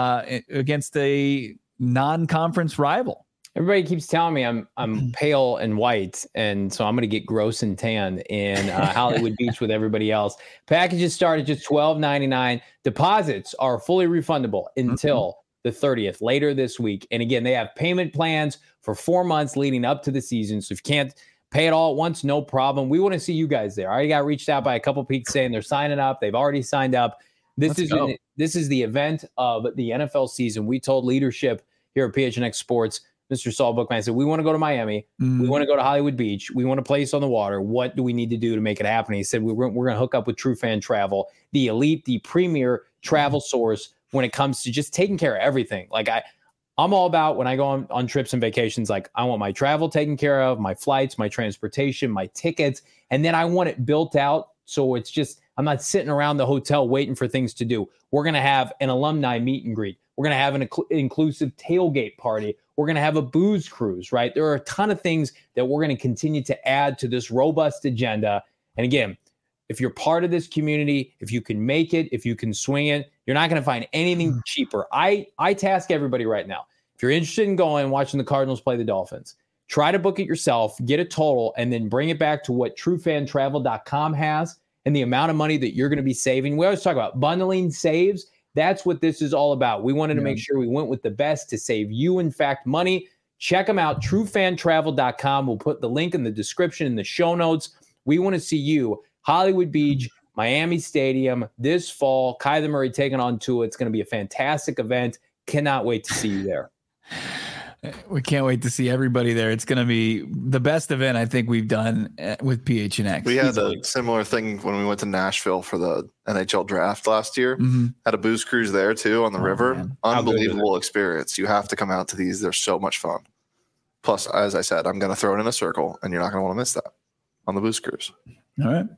against a non-conference rival. Everybody keeps telling me I'm pale and white, and so I'm going to get gross and tan in Hollywood Beach with everybody else. Packages start at just $12.99. Deposits are fully refundable until the 30th, later this week. And again, they have payment plans for 4 months leading up to the season. So if you can't pay it all at once, no problem. We want to see you guys there. I already got reached out by a couple people saying they're signing up. They've already signed up. This is the event of the NFL season. We told leadership here at PHNX Sports, Mr. Saul Bookman said, we want to go to Miami. We want to go to Hollywood Beach. We want a place on the water. What do we need to do to make it happen? He said, we're going to hook up with True Fan Travel, the elite, the premier travel source when it comes to just taking care of everything. Like I'm all about when I go on trips and vacations, like I want my travel taken care of, my flights, my transportation, my tickets, and then I want it built out. So it's just, I'm not sitting around the hotel waiting for things to do. We're going to have an alumni meet and greet. We're going to have an inclusive tailgate party. We're going to have a booze cruise, right? There are a ton of things that we're going to continue to add to this robust agenda. And again, if you're part of this community, if you can make it, if you can swing it, you're not going to find anything cheaper. I task everybody right now. If you're interested in going and watching the Cardinals play the Dolphins, try to book it yourself, get a total, and then bring it back to what TrueFanTravel.com has and the amount of money that you're going to be saving. We always talk about bundling saves. That's what this is all about. We wanted to make sure we went with the best to save you, in fact, money. Check them out, TrueFanTravel.com. We'll put the link in the description in the show notes. We want to see you, Hollywood Beach, Miami Stadium, this fall. Kyler Murray taking on Tua. It's going to be a fantastic event. Cannot wait to see you there. We can't wait to see everybody there. It's going to be the best event I think we've done with PHNX. We had a similar thing when we went to Nashville for the NHL draft last year. Had a booze cruise there too on the river. Man. Unbelievable experience. You have to come out to these. They're so much fun. Plus, as I said, I'm going to throw it in a circle, and you're not going to want to miss that on the booze cruise. All right.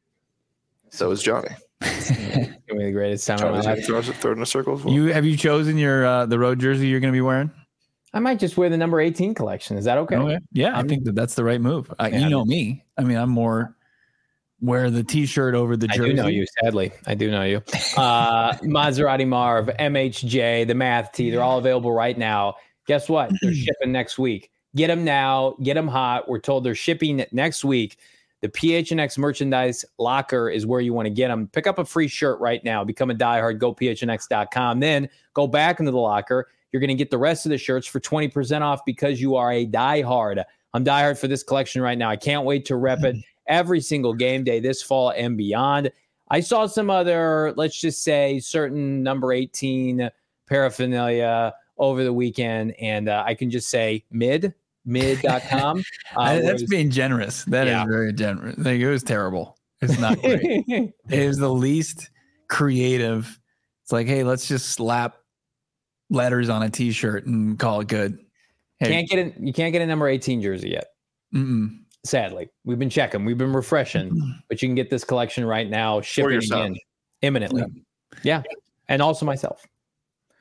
So is Johnny. It's going to be the greatest time of my life. Throw it in a circle as well. Have you chosen your the road jersey you're going to be wearing? I might just wear the number 18 collection. Is that okay? Okay. Yeah, I think that's the right move. You know me. I mean, I'm more wear the T-shirt over the jersey. I do know you, sadly. I do know you. Maserati Marv, MHJ, the Math Tee, they're all available right now. Guess what? They're shipping next week. Get them now. Get them hot. We're told they're shipping next week. The PHNX merchandise locker is where you want to get them. Pick up a free shirt right now. Become a diehard. Go PHNX.com. Then go back into the locker. You're going to get the rest of the shirts for 20% off because you are a diehard. I'm diehard for this collection right now. I can't wait to rep it every single game day this fall and beyond. I saw some other, let's just say, certain number 18 paraphernalia over the weekend, and I can just say mid.com. That's being generous. That is very generous. Like, it was terrible. It's not great. It was the least creative. It's like, hey, let's just slap letters on a T-shirt and call it good. Hey. You can't get a number 18 jersey yet. Sadly, we've been checking, we've been refreshing, but you can get this collection right now, shipping again imminently. Yeah, and also myself.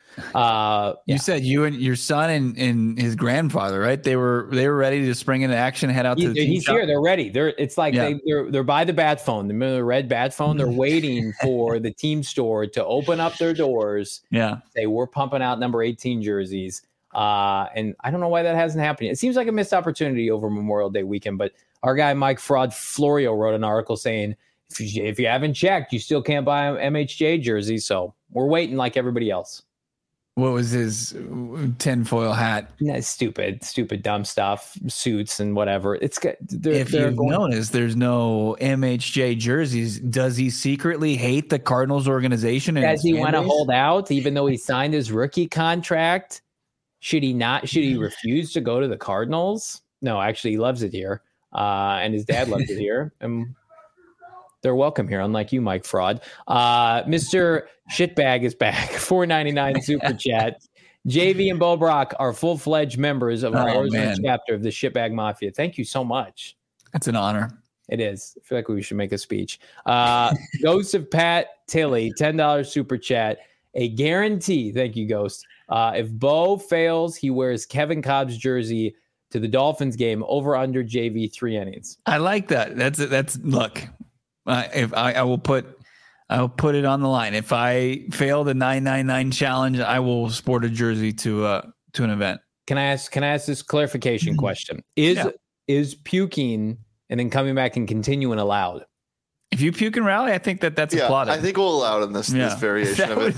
You said you and your son and his grandfather, right? They were ready to spring into action, head out to the team he's shop. here. They're ready. It's like they're by the bat phone, the red bat phone. They're waiting for the team store to open up their doors. Yeah. Say we're pumping out number 18 jerseys. And I don't know why that hasn't happened yet. It seems like a missed opportunity over Memorial Day weekend, but our guy Mike Florio wrote an article saying if you haven't checked, you still can't buy an MHJ jersey. So we're waiting like everybody else. What was his tinfoil hat? Stupid, dumb stuff, suits and whatever. It's good. If you've noticed, there's no MHJ jerseys. Does he secretly hate the Cardinals organization? Does he want to hold out even though he signed his rookie contract? Should he not? Should he refuse to go to the Cardinals? No, actually, he loves it here. And his dad loves it here. And they're welcome here, unlike you, Mike Fraud. Mr. Shitbag is back. $4.99 super chat. JV and Bo Brock are full-fledged members of our Arizona chapter of the Shitbag Mafia. Thank you so much. That's an honor. It is. I feel like we should make a speech. Ghost of Pat Tilley, $10 super chat. A guarantee. Thank you, Ghost. If Bo fails, he wears Kevin Cobb's jersey to the Dolphins game over under JV 3 innings. I like that. That's look. If I will put it on the line. If I fail the 999 challenge, I will sport a jersey to an event. Can I ask this clarification question? Is puking and then coming back and continuing allowed? If you puke and rally, I think that's applauded. I think we'll allow it in this variation of it.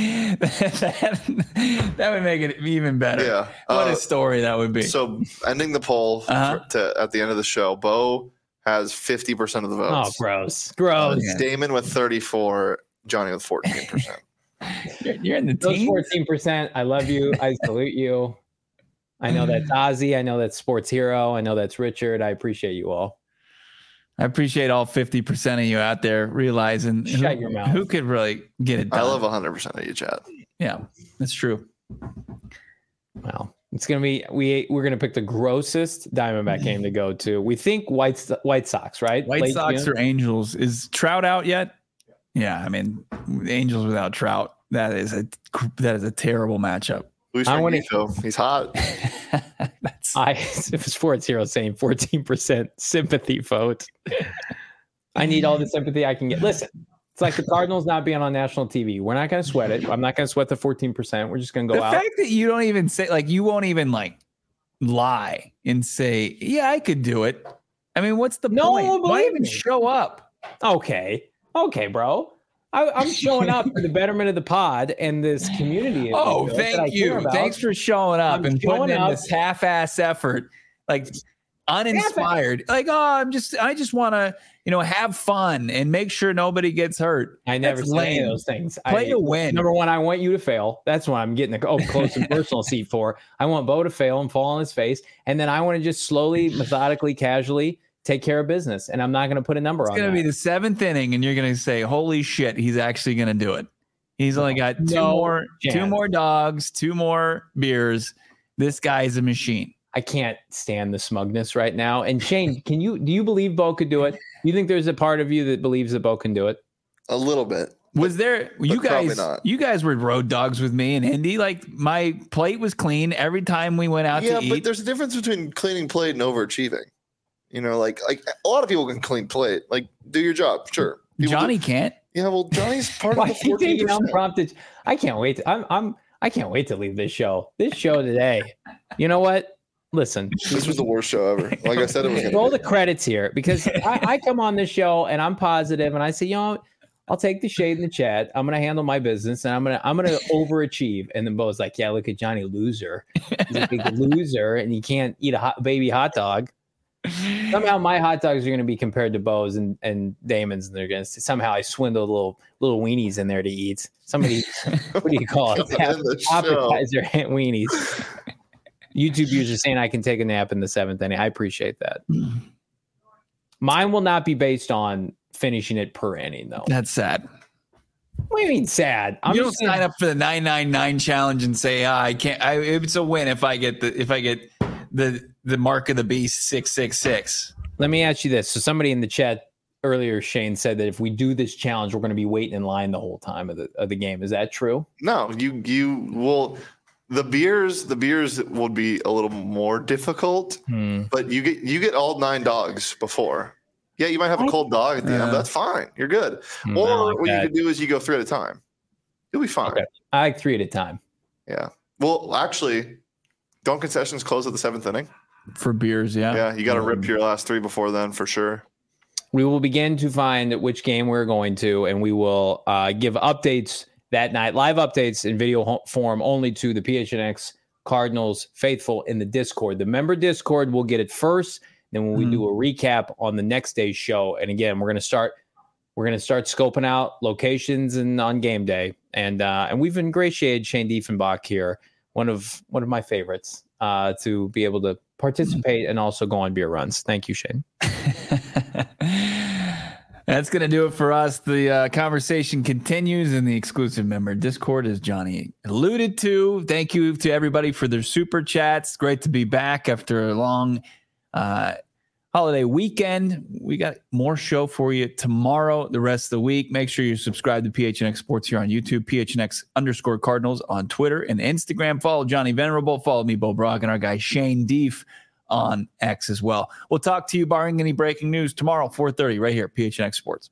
That would make it even better. Yeah. What a story that would be. So ending the poll at the end of the show, Bo has 50% of the votes. Oh, gross. Damon with 34%, Johnny with 14%. You're in the team. 14%. I love you. I salute you. I know that's Ozzy. I know that's Sports Hero. I know that's Richard. I appreciate you all. I appreciate all 50% of you out there realizing Shut your mouth. Who could really get it done. I love 100% of you, chat. Yeah, that's true. Well, it's gonna be we're gonna pick the grossest Diamondback game to go to. We think White Sox, right? White Sox or Angels. Is Trout out yet? Yeah, I mean, Angels without Trout. That is a terrible matchup. He's hot. If it's Sports Hero saying 14% sympathy vote, I need all the sympathy I can get. Listen, it's like the Cardinals not being on national TV. We're not going to sweat it. I'm not going to sweat the 14%. We're just going to go out. The fact that you don't even say, like, you won't even like lie and say, yeah, I could do it. I mean, what's the point? Why even show up? Okay, bro. I'm showing up for the betterment of the pod and this community. Thank you. Thanks for showing up and putting in this half-ass effort, like uninspired. Like, I just want to, have fun and make sure nobody gets hurt. I never say those things. Play to win. Number one, I want you to fail. That's what I'm getting a close and personal seat for. I want Bo to fail and fall on his face, and then I want to just slowly, methodically, casually take care of business, and I'm not going to put a number on it. It's going to be the 7th inning, and you're going to say, holy shit, he's actually going to do it. He's only got two more dogs, 2 more beers. This guy is a machine. I can't stand the smugness right now. And Shane, do you believe Bo could do it? You think there's a part of you that believes that Bo can do it? A little bit. Was there you guys were road dogs with me in Indy? Like, my plate was clean every time we went out to eat. Yeah, but there's a difference between cleaning plate and overachieving. Like a lot of people can clean plate. Like, do your job, sure. Johnny can't. Yeah, well, Johnny's part of the 14%. Unprompted. I can't wait. I can't wait to leave this show. This show today. You know what? Listen, this was the worst show ever. Like I said, it was. Roll the credits here because I come on this show and I'm positive and I say, I'll take the shade in the chat. I'm gonna handle my business and I'm gonna overachieve. And then Bo's like, yeah, look at Johnny, loser. He's a big loser and he can't eat a baby hot dog. Somehow my hot dogs are going to be compared to Bo's and Damon's, and they're going to somehow I swindle little weenies in there to eat. Somebody, what do you call it? Appetizer weenies. YouTube user saying I can take a nap in the 7th inning. I appreciate that. Mine will not be based on finishing it per inning, though. That's sad. What do you mean sad? You don't sign up for the 999 challenge and say, I can't. It's a win if I get the mark of the beast 666. Let me ask you this. So somebody in the chat earlier Shane said that if we do this challenge, we're going to be waiting in line the whole time of the game. Is that true? No, you will. The beers will be a little more difficult, but you get all 9 dogs before. Yeah, you might have a cold dog at the end. That's fine. You're good. Or what you can do is you go 3 at a time. You'll be fine. Okay. I like 3 at a time. Yeah. Well, actually, don't concessions close at the 7th inning? For beers, yeah. Yeah, you got to rip your last 3 before then for sure. We will begin to find which game we're going to, and we will give updates that night, live updates in video form only to the PHNX Cardinals faithful in the Discord. The member Discord will get it first. Then when we do a recap on the next day's show, and again, we're going to start scoping out locations and on game day, and we've ingratiated Shane Diefenbach here, one of my favorites, to be able to participate and also go on beer runs. Thank you, Shane. That's going to do it for us. The conversation continues in the exclusive member Discord, as Johnny alluded to. Thank you to everybody for their super chats. Great to be back after a long holiday weekend. We got more show for you tomorrow, the rest of the week. Make sure you subscribe to PHNX Sports here on YouTube, PHNX_Cardinals on Twitter and Instagram. Follow Johnny Venerable. Follow me, Bo Brock, and our guy Shane Deef on X as well. We'll talk to you barring any breaking news tomorrow, 4:30, right here, PHNX Sports.